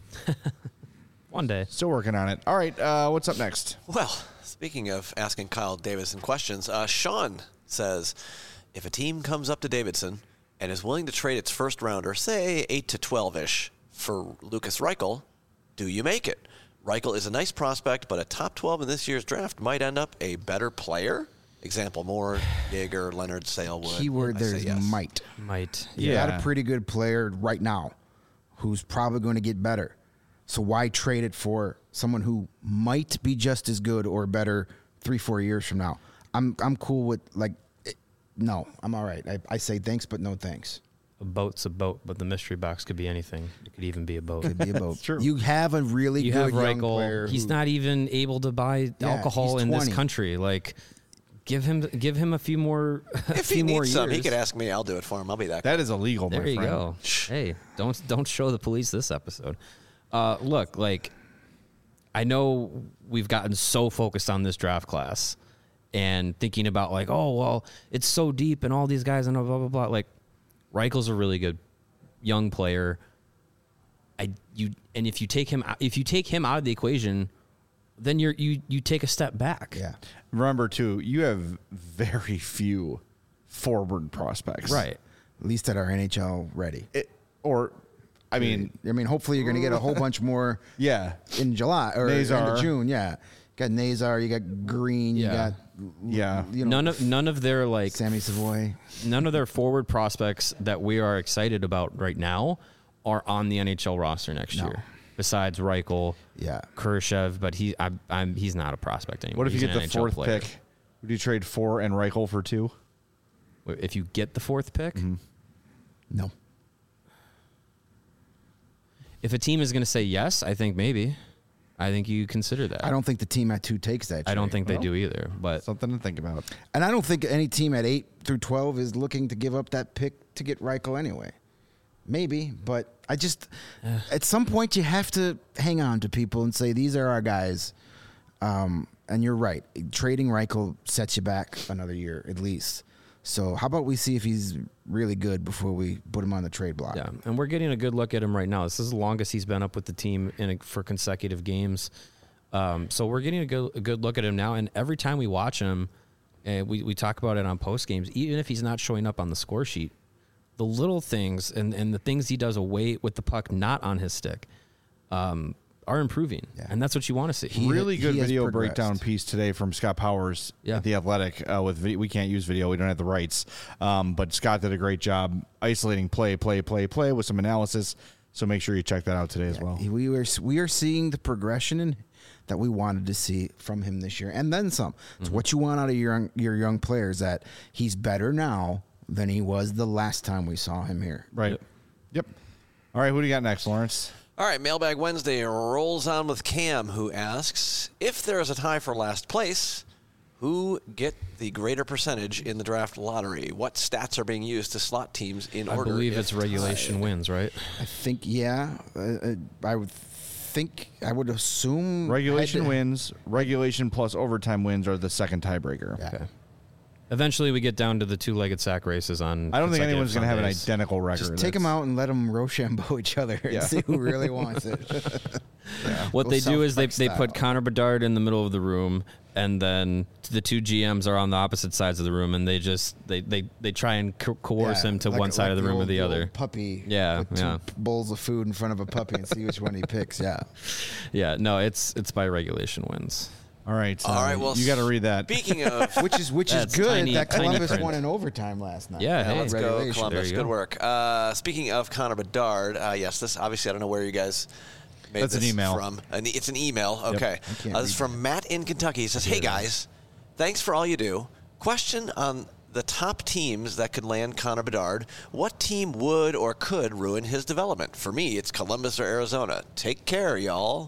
One day. Still working on it. All right, uh, what's up next? Well, speaking of asking Kyle Davidson questions, uh, Sean says, if a team comes up to Davidson and is willing to trade its first rounder, say eight to twelve-ish, for Lucas Reichel, do you make it? Reichel is a nice prospect, but a top twelve in this year's draft might end up a better player. Example, Moore, Yeager, Leonard, Salewood. Keyword I there say is yes. might. Might. You Yeah. got a pretty good player right now who's probably going to get better. So why trade it for someone who might be just as good or better three, four years from now? I'm I'm cool with, like, it, no, I'm all right. I, I say thanks, but no thanks. A boat's a boat, but the mystery box could be anything. It could even be a boat. Could be a boat. True. You have a really You good have young player. Reichel. He's who- not even able to buy Yeah, alcohol he's in this twenty. country. Like, give him give him a few more. A If few he more needs years. some, he could ask me. I'll do it for him. I'll be that guy. That is illegal, There my you friend. go. Hey, don't don't show the police this episode. Uh, look, like, I know we've gotten so focused on this draft class and thinking about like, oh well, it's so deep and all these guys and blah blah blah. blah. Like, Reichel's a really good young player. I you and if you take him out- if you take him out of the equation, then you're you you take a step back. Yeah. Remember, too, you have very few forward prospects. Right. At least that are N H L ready. It, or, I mean, I mean, hopefully you're going to get a whole bunch more yeah. in July or end Nazar. of June. Yeah. You got Nazar, you got Green, you Yeah. got Yeah. you know, None of none of their like Sammy Savoy. none of their forward prospects that we are excited about right now are on the N H L roster next No. year. Besides Reichel, Yeah. Khrushchev, but he, I, I'm, he's not a prospect anymore. What if you He's get an the N H L fourth player. pick? Would you trade four and Reichel for two? If you get the fourth pick, No. if a team is going to say yes, I think maybe. I think you consider that. I don't think the team at two takes that. I don't trade. think they Well, do either. But Something to think about. And I don't think any team at eight through twelve is looking to give up that pick to get Reichel anyway. Maybe, but I just at some point you have to hang on to people and say these are our guys. Um, and you're right, trading Reichel sets you back another year at least. So how about we see if he's really good before we put him on the trade block? yeah, and we're getting a good look at him right now. This is the longest he's been up with the team in a, for consecutive games. Um, so we're getting a good, a good look at him now. And every time we watch him, and we, we talk about it on post games, even if he's not showing up on the score sheet, the little things and, and the things he does away with the puck not on his stick um, are improving. Yeah. And that's what you want to see. He, really good video breakdown piece today from Scott Powers yeah. at The Athletic. Uh, with video, we can't use video. We don't have the rights. Um, but Scott did a great job isolating play, play, play, play with some analysis. So make sure you check that out today yeah. as well. We are, we are seeing the progression in that we wanted to see from him this year, and then some. It's mm-hmm. what you want out of your young, your young players, that he's better now than he was the last time we saw him here. Right. Yep. yep. All right, who do you got next, Lawrence? All right, Mailbag Wednesday rolls on with Cam, who asks, if there is a tie for last place, who get the greater percentage in the draft lottery? What stats are being used to slot teams in I order? I believe it's regulation tied. wins, right? I think, yeah. Uh, I would think, I would assume. Regulation wins, regulation plus overtime wins are the second tiebreaker. Yeah. Okay. Eventually, we get down to the two-legged sack races on. I don't think anyone's going to have an identical record. Just take them out and let them Rochambeau each other and yeah. see who really wants it. yeah. What they do is they they put Connor Bedard in the middle of the room, and then the two G Ms are on the opposite sides of the room, and they just they they, they try and co- coerce yeah, him to like, one side like of the, the room old, or the other. Puppy. Yeah, with yeah. Two bowls of food in front of a puppy and see which one he picks. Yeah. Yeah. No, it's it's by regulation wins. All right. All right. Well, you got to read that. Speaking of, which is which is good tiny, that Columbus print. won in overtime last night. Yeah. yeah hey, let's go, Columbus. you Good go. work. Uh, speaking of Connor Bedard, uh, yes, this obviously I don't know where you guys made That's this an email. from. An, it's an email. Okay. Yep. Uh, this is from Matt in Kentucky. He says, "Hey guys, thanks for all you do. Question on the top teams that could land Connor Bedard. What team would or could ruin his development? For me, it's Columbus or Arizona. Take care, y'all."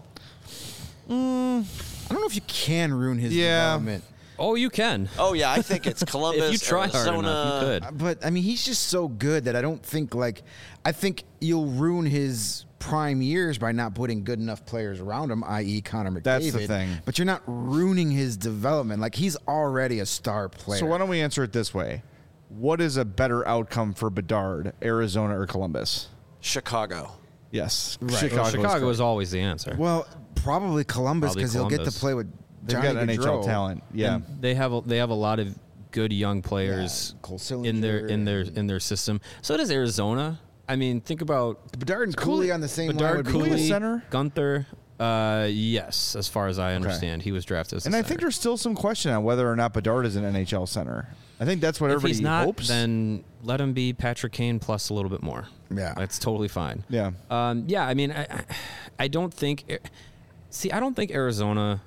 Mm, I don't know if you can ruin his yeah. development. Oh, you can. Oh, yeah, I think it's Columbus, if you try Arizona. hard enough, you could. But, I mean, he's just so good that I don't think, like, I think you'll ruin his prime years by not putting good enough players around him, that is. Connor McDavid. That's the thing. But you're not ruining his development. Like, he's already a star player. So why don't we answer it this way? What is a better outcome for Bedard, Arizona or Columbus? Chicago. Yes. Right. Chicago, well, Chicago is is always the answer. Well, probably Columbus because he'll get to play with They've Johnny got N H L Gaudreau. talent. Yeah. And they have a, they have a lot of good young players yeah, in their in their in their system. So does Arizona. I mean, think about Bedard and Cooley on the same Bedard, line. Would Cooley, be cool. center. Gunther. Uh, yes, as far as I understand, okay. he was drafted as a And I center. think there's still some question on whether or not Bedard is an N H L center. I think that's what if everybody he's not, hopes. Then let him be Patrick Kane plus a little bit more. Yeah, that's totally fine. Yeah, um, yeah. I mean, I, I don't think. See, I don't think Arizona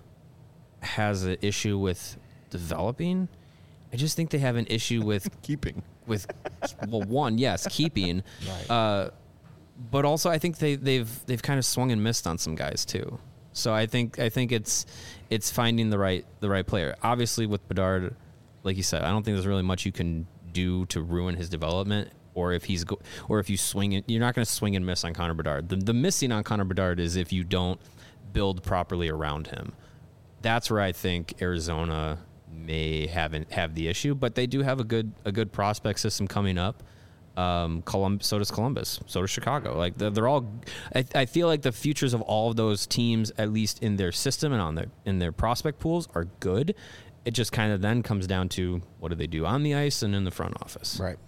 has an issue with developing. I just think they have an issue with keeping. With well, one, yes, keeping. Right. Uh, but also, I think they, they've they've kind of swung and missed on some guys too. So I think I think it's it's finding the right the right player. Obviously, with Bedard, like you said, I don't think there's really much you can do to ruin his development. Or if he's go, or if you swing it, you're not going to swing and miss on Connor Bedard. The, the missing on Connor Bedard is if you don't build properly around him. That's where I think Arizona may have have the issue, but they do have a good a good prospect system coming up. Um, Colum- so does Columbus, so does Chicago. Like they're, they're all. I, I feel like the futures of all of those teams, at least in their system and on their in their prospect pools, are good. It just kind of then comes down to what do they do on the ice and in the front office. Right.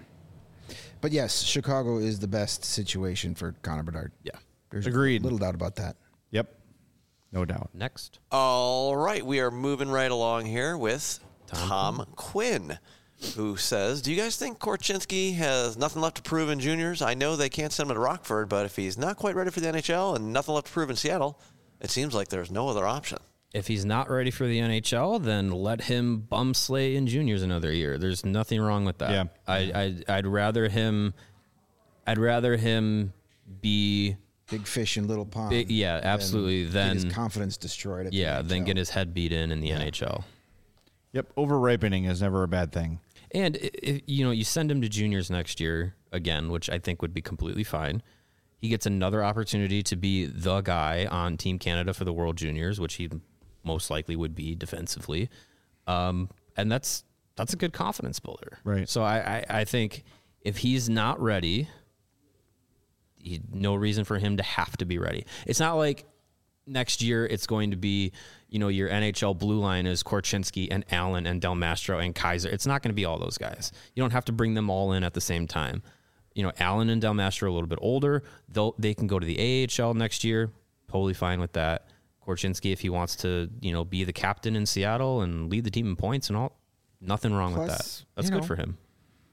But yes, Chicago is the best situation for Connor Bedard. Yeah, there's agreed. Little doubt about that. Yep, no doubt. Next. All right, we are moving right along here with Tom, Tom Quinn, who says, do you guys think Korchinski has nothing left to prove in juniors? I know they can't send him to Rockford, but if he's not quite ready for the N H L and nothing left to prove in Seattle, it seems like there's no other option. If he's not ready for the N H L, then let him bum slay in juniors another year. There's nothing wrong with that. Yeah. I, I I'd rather him I'd rather him be big fish in little pond. Big, yeah, absolutely. Then his confidence destroyed. At yeah, the then get his head beat in in the yeah. N H L. Yep, over ripening is never a bad thing. And if, you know, you send him to juniors next year again, which I think would be completely fine. He gets another opportunity to be the guy on Team Canada for the World Juniors, which he most likely would be defensively, um, and that's that's a good confidence builder. Right. So I, I, I think if he's not ready, he, no reason for him to have to be ready. It's not like next year it's going to be, you know, your N H L blue line is Korchinski and Allen and Del Mastro and Kaiser. It's not going to be all those guys. You don't have to bring them all in at the same time. You know, Allen and Del Mastro are a little bit older. They'll, they can go to the A H L next year. Totally fine with that. Korchinski, if he wants to, you know, be the captain in Seattle and lead the team in points and all, nothing wrong Plus, with that. That's you know, good for him.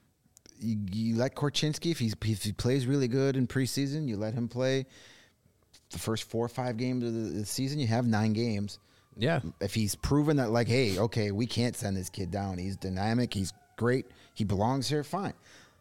You, you let Korchinski, if, he's, if he plays really good in preseason, you let him play the first four or five games of the, the season. You have nine games. Yeah. If he's proven that, like, hey, okay, we can't send this kid down. He's dynamic. He's great. He belongs here. Fine.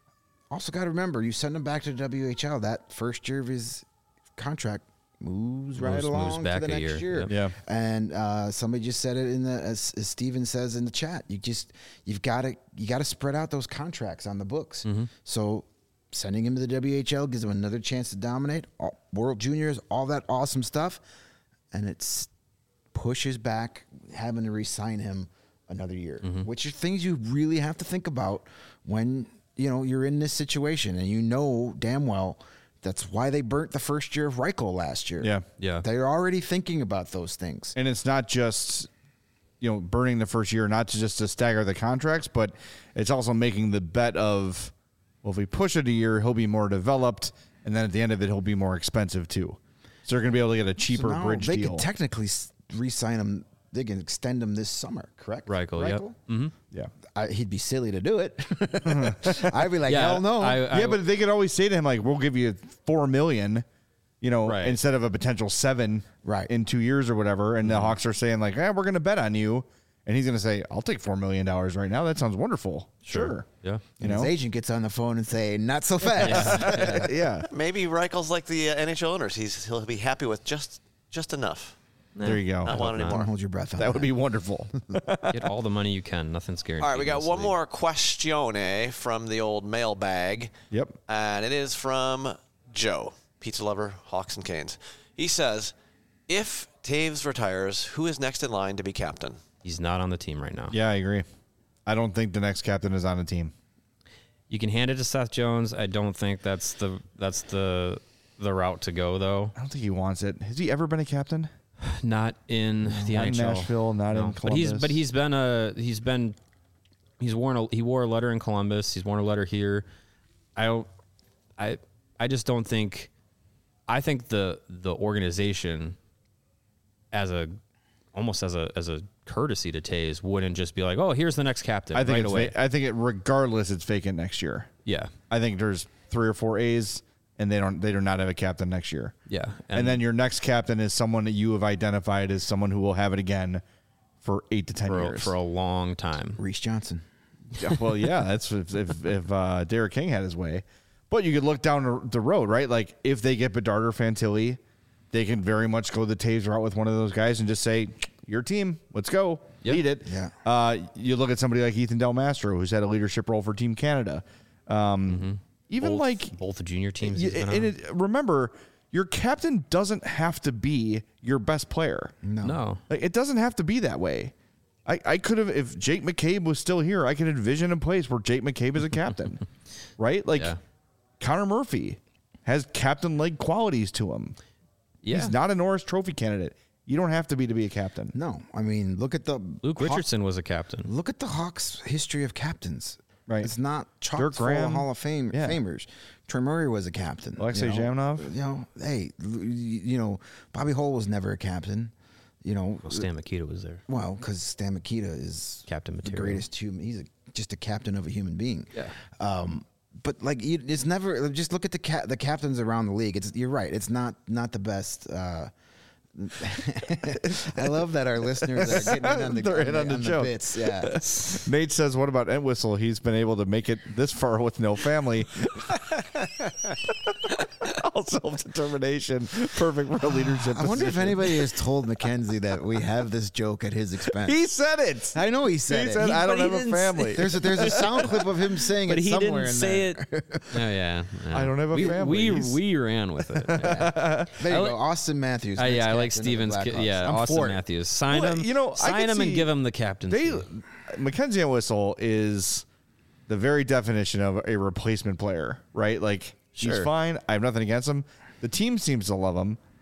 Also got to remember, you send him back to the W H L, that first year of his contract moves right Moves- along moves to back the a next year. year. Yep. Yeah. And uh, somebody just said it in the as, as Steven says in the chat. You just you've got to you got to spread out those contracts on the books. Mm-hmm. So sending him to the W H L gives him another chance to dominate all, World Juniors, all that awesome stuff, and it's pushes back having to re-sign him another year, Mm-hmm. which are things you really have to think about when you know you're in this situation, and you know damn well. That's why they burnt the first year of Reichel last year. Yeah. Yeah. They're already thinking about those things. And it's not just, you know, burning the first year, not to just to stagger the contracts, but it's also making the bet of, well, if we push it a year, he'll be more developed, and then at the end of it, he'll be more expensive too. So they're going to be able to get a cheaper So now bridge they deal. could technically s- re-sign him. They can extend him this summer, correct? Reichel, yep. Mm-hmm. yeah. I, he'd be silly to do it. I'd be like, Yeah, hell no. I- yeah, but they could always say to him, like, we'll give you four million, you know, Right. instead of a potential seven Right. in two years or whatever. And the Hawks are saying, like, eh, we're going to bet on you. And he's going to say, I'll take four million dollars right now. That sounds wonderful. Sure. Yeah. You and know? his agent gets on the phone and say, not so fast. yeah. Maybe Reichel's like the uh, N H L owners. He's he'll be happy with just just enough. There you go. Not want not. anymore. Don't hold your breath on That would be wonderful. Get all the money you can. Nothing's guaranteed. All right, we got in this one league. more questione from the old mailbag. Yep. And it is from Joe, pizza lover, Hawks and Canes. He says, if Taves retires, who is next in line to be captain? He's not on the team right now. Yeah, I agree. I don't think the next captain is on the team. You can hand it to Seth Jones. I don't think that's the that's the the route to go though. I don't think he wants it. Has he ever been a captain? Not in the Not in N H L. Nashville, not in But he's Columbus. but he's been a he's been he's worn a he wore a letter in Columbus. He's worn a letter here. I don't I I just don't think I think the the organization as a almost as a as a courtesy to Taves wouldn't just be like, oh, here's the next captain I think right it's away. va- I think it regardless it's vacant next year. Yeah, I think there's three or four A's and they don't they do not have a captain next year. yeah, And, then your next captain is someone that you have identified as someone who will have it again for eight to ten for a, years. for a long time. Reese Johnson. Yeah, well, yeah, that's if if, if uh, Derek King had his way. But you could look down the- the road, right? Like if they get Bedard or Fantilli, they can very much go the Taves route with one of those guys and just say, "Your team, let's go, Yep. lead it." Yeah. Uh, you look at somebody like Ethan Del Mastro, who's had a leadership role for Team Canada. Um, Even both, like both the junior teams. y- he's been and on. it, remember, your captain doesn't have to be your best player. No. no, Like, it doesn't have to be that way. I, I could have, if Jake McCabe was still here, I could envision a place where Jake McCabe is a captain, right? Like Yeah. Connor Murphy has captain-like qualities to him. yeah. He's not a Norris Trophy candidate. You don't have to be to be a captain. No. I mean, look at the Luke Haw- Richardson was a captain. Look at the Hawks' history of captains. Right. It's not chock Dirk full Graham. of Hall of Fame Yeah. famers. Trey Murray was a captain. Alexei you know? Zhamnov? You know, hey, l- y- you know, Bobby Hull was never a captain. You know, Well, Stan Mikita was there. well, because Stan Mikita is Captain the material. greatest human. He's a, just a captain of a human being. Yeah. Um, but like, you, it's never. Just look at the ca- the captains around the league. It's you're right. It's not not the best. Uh, I love that our listeners are getting in on the, They're on in the, on the on the joke. bits. Yeah. Nate says, what about Entwistle? He's been able to make it this far with no family. All self-determination. Perfect for a leadership I wonder if position. anybody has told Mackenzie that we have this joke at his expense. He said it. I know he said He it. said, He- I don't but he have a didn't family. say- There's a, there's a sound clip of him saying But it he somewhere didn't in say there. it. Oh yeah, yeah. I don't have a we, family. We He's- we ran with it. Yeah, There you I go, like- Austin Matthews. Uh, next yeah I like captain of the Stevens. ki- Blackhawks. Yeah, I'm Austin for it. Matthews. Sign Well, him. you know, I sign could him see- and give him the captaincy. They, Mackenzie Entwistle is the very definition of a replacement player, right? Like, he's Sure. fine. I have nothing against him. The team seems to love him.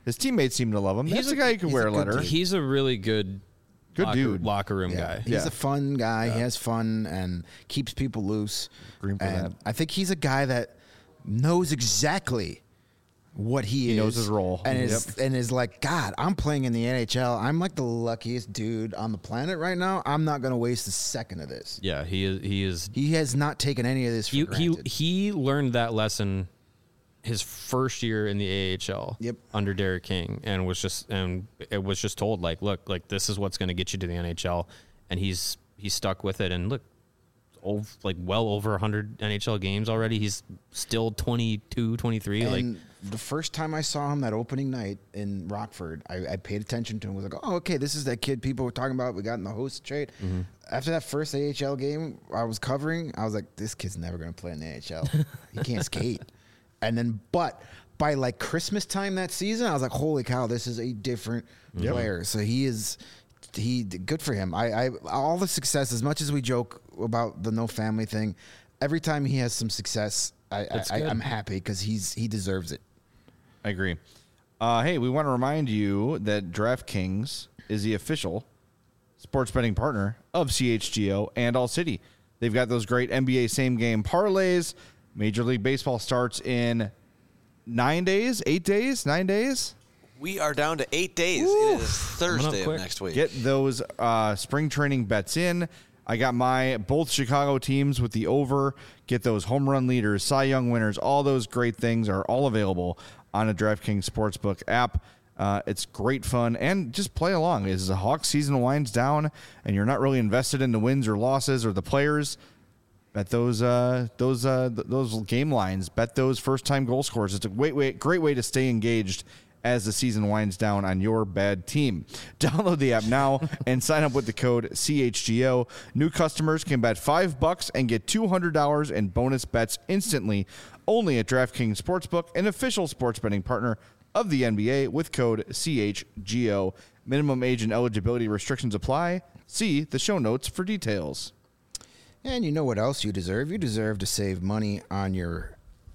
His teammates seem to love him. He's That's a guy who can wear a letter. He's a really good, good locker, dude, locker room yeah. guy. He's yeah. a fun guy. Yeah. He has fun and keeps people loose. Green for and that. I think he's a guy that knows exactly what he, he is. He knows his role. And is, yep. and is like, God, I'm playing in the N H L. I'm like the luckiest dude on the planet right now. I'm not going to waste a second of this. Yeah, he is. He is. He has not taken any of this for he, granted. He, he learned that lesson his first year in the A H L yep. under Derek King, and was just and it was just told like, look, like this is what's going to get you to the N H L, and he's he's stuck with it. And look, over, like well over one hundred N H L games already. He's still twenty-two, twenty-three. And like the first time I saw him that opening night in Rockford, I, I paid attention to him. I was like, oh, okay, this is that kid people were talking about. We got in the host trade. Mm-hmm. After that first A H L game I was covering, I was like, this kid's never going to play in the A H L. He can't skate. And then, but by like Christmas time that season, I was like, holy cow, this is a different yep. player. So he is, he good for him. I, I, all the success, as much as we joke about the no family thing, every time he has some success, I, I, I'm happy because he's he deserves it. I agree. Uh, hey, we want to remind you that DraftKings is the official sports betting partner of C H G O and All City. They've got those great N B A same game parlays. Major League Baseball starts in nine days, eight days, nine days. We are down to eight days. Woo. It is Thursday of next week. Get those uh, spring training bets in. I got my both Chicago teams with the over. Get those home run leaders, Cy Young winners. All those great things are all available on a DraftKings Sportsbook app. Uh, it's great fun, and just play along. As the Hawks season winds down and you're not really invested in the wins or losses or the players, bet those uh, those uh, th- those game lines. Bet those first-time goal scorers. It's a great way, great way to stay engaged as the season winds down on your bad team. Download the app now and sign up with the code C H G O. New customers can bet five bucks and get two hundred dollars in bonus bets instantly. Only at DraftKings Sportsbook, an official sports betting partner of the N B A, with code C H G O. Minimum age and eligibility restrictions apply. See the show notes for details. And you know what else you deserve? You deserve to save money on your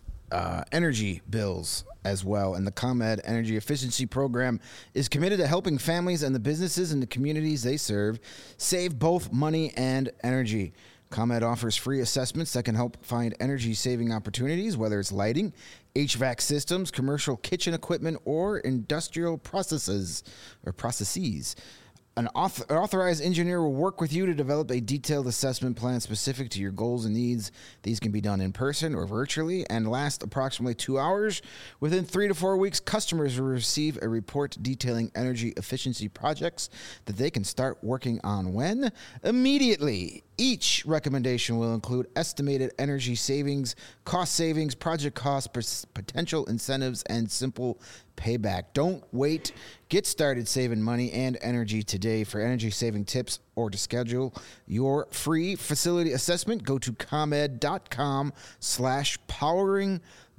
uh, energy bills as well. And the ComEd Energy Efficiency Program is committed to helping families and the businesses and the communities they serve save both money and energy. ComEd offers free assessments that can help find energy-saving opportunities, whether it's lighting, H V A C systems, commercial kitchen equipment, or industrial processes or processes. An author- authorized engineer will work with you to develop a detailed assessment plan specific to your goals and needs. These can be done in person or virtually and last approximately two hours. Within three to four weeks, customers will receive a report detailing energy efficiency projects that they can start working on when? Immediately. Each recommendation will include estimated energy savings, cost savings, project costs, potential incentives, and simple payback. Don't wait. Get started saving money and energy today. For energy-saving tips or to schedule your free facility assessment, go to ComEd.com slash powering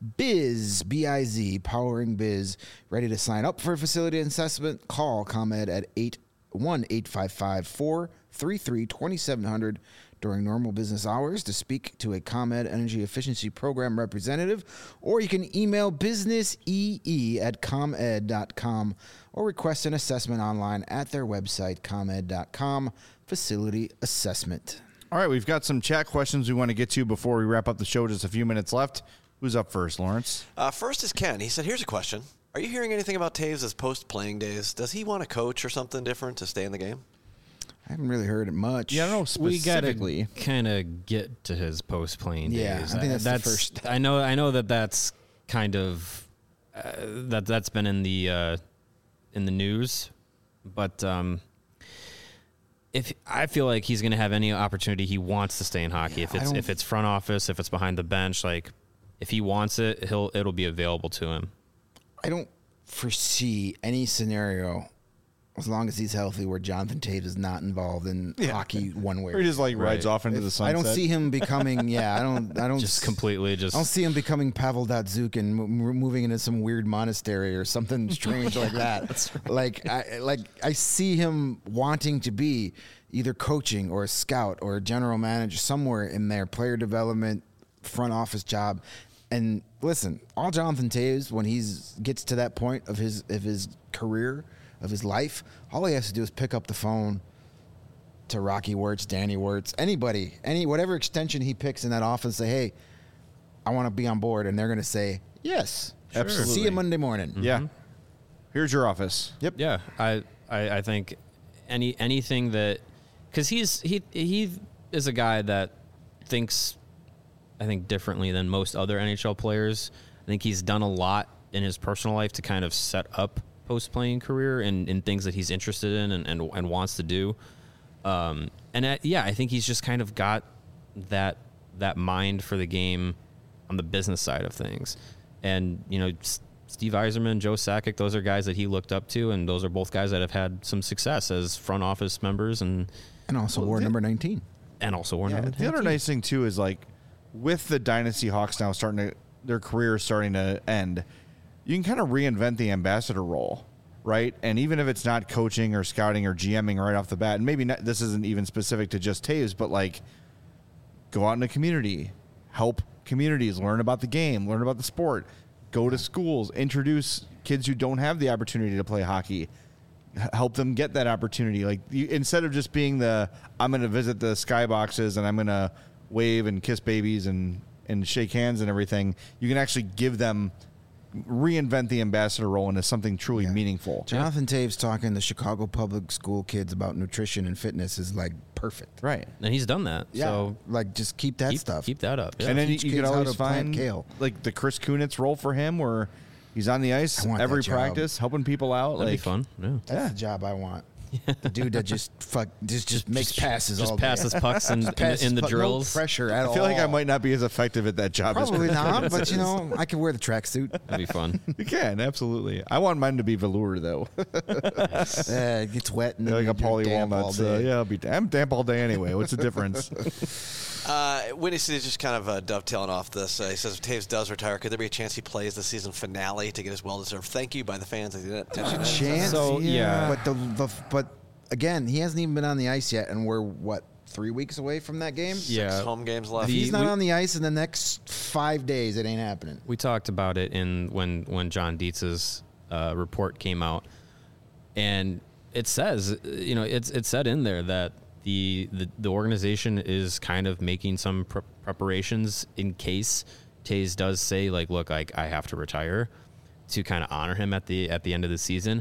biz, B I Z, powering biz. Ready to sign up for a facility assessment? Call ComEd at eight one eight five five four three three two seven zero zero during normal business hours to speak to a ComEd Energy Efficiency Program representative, or you can email businessee at comed dot com or request an assessment online at their website, comed dot com, facility assessment. All right, we've got some chat questions we want to get to before we wrap up the show. Just a few minutes left. Who's up first, Lawrence? Uh, first is Ken. He said, here's a question. Are you hearing anything about Taves' post-playing days? Does he want to coach or something different to stay in the game? I haven't really heard it much. Yeah, I don't know specifically. We got to kind of get to his post-playing yeah, days. I think that's, that's the first. I know. I know that that's kind of uh, that that's been in the uh, in the news, but um, if I feel like he's going to have any opportunity, he wants to stay in hockey. Yeah, if it's if it's front office, if it's behind the bench, like if he wants it, he'll it'll be available to him. I don't foresee any scenario, as long as he's healthy, where Jonathan Toews is not involved in yeah. hockey one way. Or he just like rides right. off into if, the sunset. I don't see him becoming. Yeah, I don't. I don't just completely. Just I don't see him becoming Pavel Datsyuk and m- moving into some weird monastery or something strange yeah, like that. Right. Like, I like I see him wanting to be either coaching or a scout or a general manager somewhere in their player development front office job. And listen, all Jonathan Toews, when he's gets to that point of his of his career, of his life, all he has to do is pick up the phone to Rocky Wirtz, Danny Wirtz, anybody, any whatever extension he picks in that office, say, hey, I want to be on board. And they're going to say, yes. Sure. Absolutely. See you Monday morning. Mm-hmm. Yeah. Here's your office. Yep. Yeah. I, I, I think any anything that – because he's he he is a guy that thinks, I think, differently than most other N H L players. I think he's done a lot in his personal life to kind of set up post-playing career and in things that he's interested in and, and, and wants to do. Um, and I, yeah, I think he's just kind of got that that mind for the game on the business side of things. And, you know, S- Steve Yzerman, Joe Sakic, those are guys that he looked up to, and those are both guys that have had some success as front office members. And and also well, wore number nineteen. And also wore yeah, number nineteen. The other nice thing, too, is, like, with the Dynasty Hawks now starting to, their career starting to end, you can kind of reinvent the ambassador role. Right, and even if it's not coaching or scouting or GMing right off the bat, and maybe not, this isn't even specific to just Toews, but like go out in the community, help communities learn about the game, learn about the sport, go to schools, introduce kids who don't have the opportunity to play hockey, help them get that opportunity. Like you, instead of just being the I'm going to visit the skyboxes and I'm going to wave and kiss babies and and shake hands and everything, you can actually give them. Reinvent the ambassador role into something truly yeah. meaningful. Jonathan Toews talking to Chicago public school kids about nutrition and fitness is like perfect. Right. And he's done that. Yeah. So like just keep that keep, stuff. Keep that up. Yeah. And then you, you could always find kale. Like the Chris Kunitz role for him where he's on the ice every practice, helping people out. That'd like, be fun. Yeah. That's yeah. the job I want. The dude that just fuck just just makes just, passes just all passes day. pucks in, in, in the puck, drills. No pressure at all. I feel all. like I might not be as effective at that job. Probably as not, but you know, I can wear the tracksuit. That'd be fun. You can, absolutely. I want mine to be velour though. Yes. uh, it gets wet and like a Paulie Walnuts. Uh, yeah, I'll be I'm damp all day anyway. What's the difference? Uh, Windy City just kind of uh, dovetailing off this. Uh, he says if Toews does retire, could there be a chance he plays the season finale to get his well-deserved thank you by the fans? A chance, so, yeah. But the, the but again, he hasn't even been on the ice yet, and we're what three weeks away from that game. Yeah, Six home games left. If he's not we, on the ice in the next five days, it ain't happening. We talked about it in when when John Dietz's uh, report came out, and it says, you know, it's it said in there that. The, the the organization is kind of making some pre- preparations in case Toews does say like, look, I I have to retire, to kind of honor him at the at the end of the season.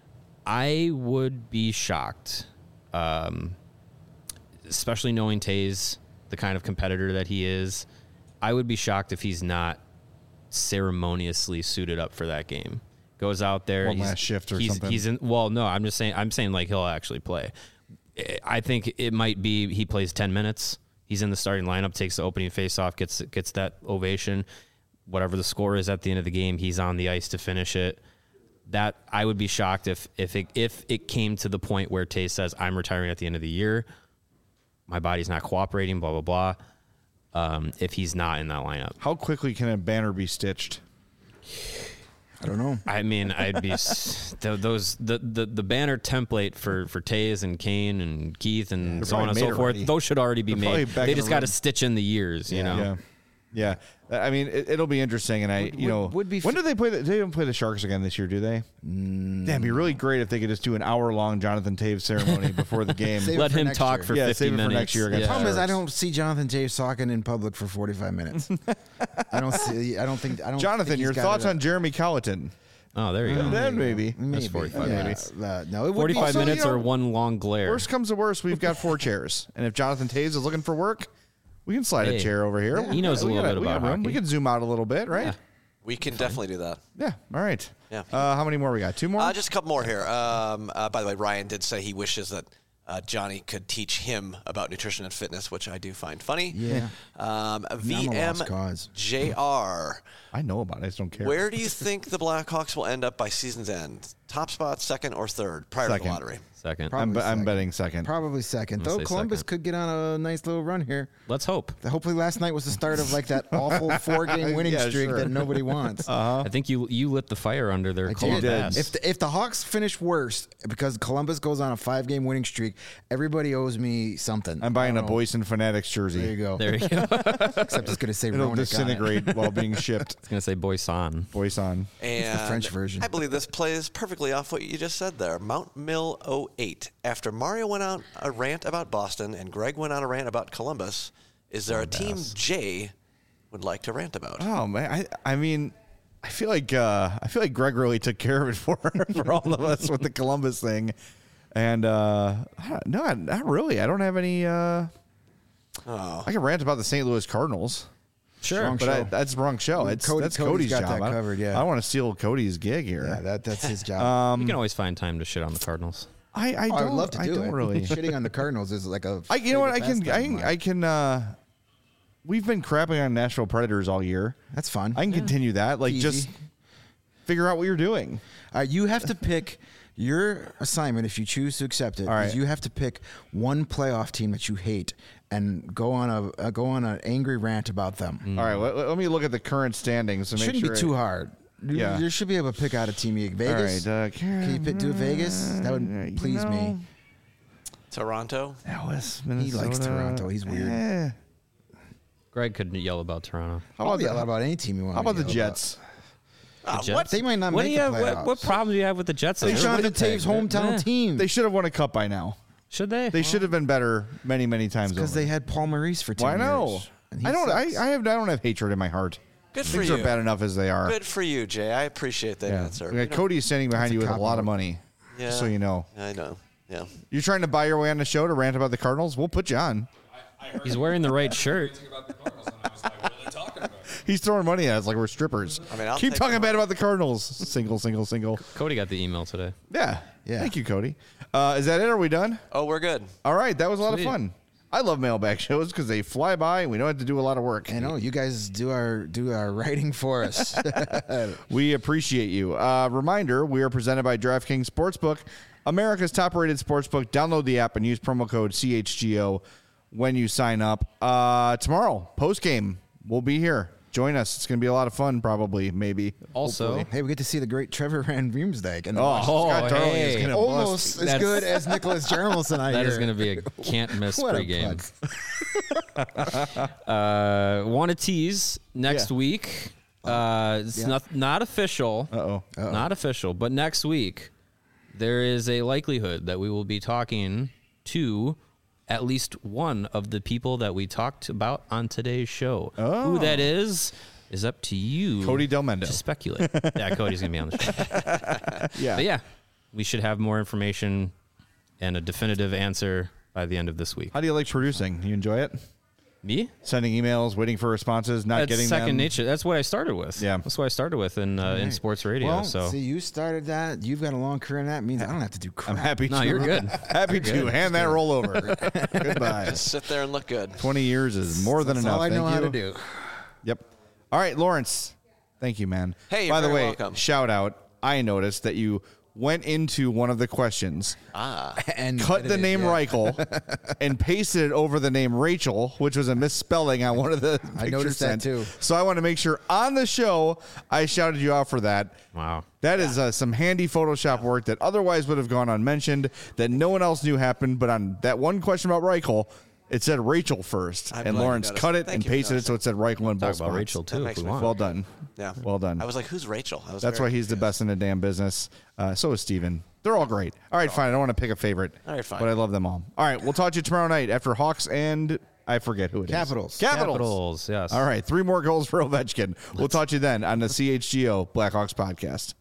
I would be shocked, um, especially knowing Toews, the kind of competitor that he is. I would be shocked if he's not ceremoniously suited up for that game. Goes out there, one he's, last shift or he's, something. He's in. Well, no, I'm just saying. I'm saying like he'll actually play. I think it might be he plays ten minutes. He's in the starting lineup, takes the opening faceoff, gets gets that ovation. Whatever the score is at the end of the game, he's on the ice to finish it. That I would be shocked if if it, if it came to the point where Toews says, I'm retiring at the end of the year. My body's not cooperating, blah, blah, blah. Um, if he's not in that lineup. How quickly can a banner be stitched? I don't know. I mean, I'd be those the, the the banner template for for Toews and Kane and Keith and They're so on and so forth. Already. Those should already be They're made. They just got to room. stitch in the years, you Yeah. know. Yeah, yeah. I mean, it, it'll be interesting, and I, Would- you know, would- would be when f- do they play? The, they don't play the Sharks again this year, do they? Mm. Damn, it'd be really great if they could just do an hour-long Jonathan Toews ceremony before the game. Save it Let for him next talk year. for Yeah, fifty save it for minutes. next year against Yeah. the Problem is, I Sharks. don't see Jonathan Toews talking in public for forty-five minutes. I don't see. I don't think. I don't. Jonathan, think he's your got thoughts it up. on Jeremy Colleton? Oh, there you go. Then maybe. Maybe. forty-five Yeah. minutes. Uh, no, it would forty-five be, Also, minutes you know, or one long glare. Worst comes to worst, we've got four chairs, and if Jonathan Toews is looking for work, we can slide Hey, a chair over here. he knows a We little got bit we got about room. We hockey. can zoom out a little bit, right? Yeah. We can definitely do that. Yeah. All right. Yeah. Uh, how many more we got? Two more. Uh, just a couple more here. Um, uh, by the way, Ryan did say he wishes that uh, Johnny could teach him about nutrition and fitness, which I do find funny. Yeah. Um, I'm a V M lost cause. J R. I know about it. I just don't care. Where do you think the Blackhawks will end up by season's end? Top spot, second, or third prior to Second. the lottery? Second. I'm, Probably be- I'm second. betting second. Probably second. I'm Though gonna say Columbus second. could get on a nice little run here. Let's hope. Hopefully, last night was the start of like that awful four-game winning Yeah, streak sure. that nobody wants. I think you you lit the fire under their I cold did. ass. If the, if the Hawks finish worse because Columbus goes on a five-game winning streak, Everybody owes me something. I'm buying a Boyson Fanatics jersey. There you go. There you go. Except it's going to say It'll Ronick disintegrate while being shipped. It's gonna say Boyson. Boyson. And the French version. I believe this plays perfectly off what you just said there. Mount Mill oh eight. After Mario went on a rant about Boston and Greg went on a rant about Columbus, is there a team Jay would like to rant about? Oh man, I I mean, I feel like uh, I feel like Greg really took care of it for for all of us with the Columbus thing, and uh, no, not really. I don't have any. Uh, Oh. I can rant about the Saint Louis Cardinals. Sure, but I, that's the wrong show. It's Cody- that's Cody's Cody's got job. that I, covered, yeah. I don't want to steal Cody's gig here. Yeah, that, that's his job. Um, You can always find time to shit on the Cardinals. I I, Oh, don't, I would love to I do don't it. really. Shitting on the Cardinals is like a. I you know what I favorite can I pastime can of I mine. can. Uh, we've been crapping on Nashville Predators all year. That's fun. I can continue that. Like Easy. just figure out what you're doing. Uh, you have to pick your assignment if you choose to accept it. All right. is You have to pick one playoff team that you hate and go on a uh, go on an angry rant about them. All right, let, let me look at the current standings. To make Shouldn't sure be too I- hard. You, Yeah. you should be able to pick out a team. You Vegas. All right, uh, Can you pick, do Vegas? That would you please me. know, Toronto? That was He likes Minnesota. Toronto. He's weird. Eh. Greg could yell about Toronto. How I'll about yell the, about any team you want. how about to the yell Jets? Ah, Jets? what? They might not What do make you the have? What, playoffs. what problem do you have with the Jets? They Jonathan Winnipeg. Taves' hometown Yeah. team. They should have won a cup by now. Should they? They should have been better many, many times. because over. they had Paul Maurice for ten Why no? years. and he I don't. I, sucks. I have. I don't have hatred in my heart. Good for Things you. are bad enough as they are. Good for you, Jay. I appreciate that Yeah. answer. Yeah, You know- Cody is standing behind That's a you with a cop lot out. of money. Yeah. Just so you know. I know. Yeah. You're trying to buy your way on the show to rant about the Cardinals? We'll put you on. He's wearing the right shirt. About the Cardinals, and I was like, what are they talking about? He's throwing money at us like we're strippers. I mean, I'll Keep take talking the bad money. about the Cardinals. Single, single, single. Cody got the email today. Yeah. Yeah. Thank you, Cody. Uh, is that it? Are we done? Oh, we're good. All right. That was a lot Sweet. of fun. I love mailbag shows because they fly by and we don't have to do a lot of work. I know you guys do our do our writing for us. We appreciate you. Uh, reminder, we are presented by DraftKings Sportsbook, America's top-rated sportsbook. Download the app and use promo code C H G O when you sign up. Uh, tomorrow, post-game, we'll be here. Join us. It's going to be a lot of fun, probably, maybe. Also, hopefully. Hey, we get to see the great Trevor Van Riemsdyk. And Oh, Scott Darling is hey. going to almost bust. as That's- good as Nicholas Jarmelson. I that hear. is going to be a can't miss What a pregame. uh, Want to tease next Yeah. week? Uh, it's Yeah. not not official. Uh-oh. Not official, but next week there is a likelihood that we will be talking to at least one of the people that we talked about on today's show. Who that is is up to you, Cody Del Mendo. to speculate. Yeah, Cody's gonna be on the show. Yeah. But yeah, we should have more information and a definitive answer by the end of this week. How do you like producing? You enjoy it? Me? Sending emails, waiting for responses, not That's getting second them? nature. That's what I started with. Yeah. That's what I started with in uh, in sports radio. Well, so see, you started that. You've got a long career in that. It means I don't have to do crap. I'm happy No, to. you're good. Happy to. Hand that roll over. Goodbye. Just sit there and look good. twenty years is more than That's enough. all I know Thank how you. to do. Yep. All right, Lawrence. Thank you, man. Hey, you're by the very way, welcome. shout out. I noticed that you went into one of the questions, Ah. And cut the edited, name yeah. Reichel, and pasted it over the name Rachel, which was a misspelling on one of the I pictures noticed that sent. too. So I want to make sure on the show I shouted you out for that. wow. That is uh, some handy Photoshop work that otherwise would have gone unmentioned, that no one else knew happened. But on that one question about Reichel, it said Rachel first, I'm and glad you Lawrence noticed. cut it Thank and you for pasted it so it said Reichel in Talk both about spots. Rachel too makes if we me want. Well done. Yeah. Well done. I was like, who's Rachel? I was That's very why he's the confused. best in the damn business. Uh, so is Steven. They're all great. All right, fine. I don't want to pick a favorite. All right, fine. But I love them all. All right, we'll talk to you tomorrow night after Hawks and I forget who it is. Capitals. Capitals. Capitals, yes. All right, three more goals for Ovechkin. We'll talk to you then on the C H G O Blackhawks podcast.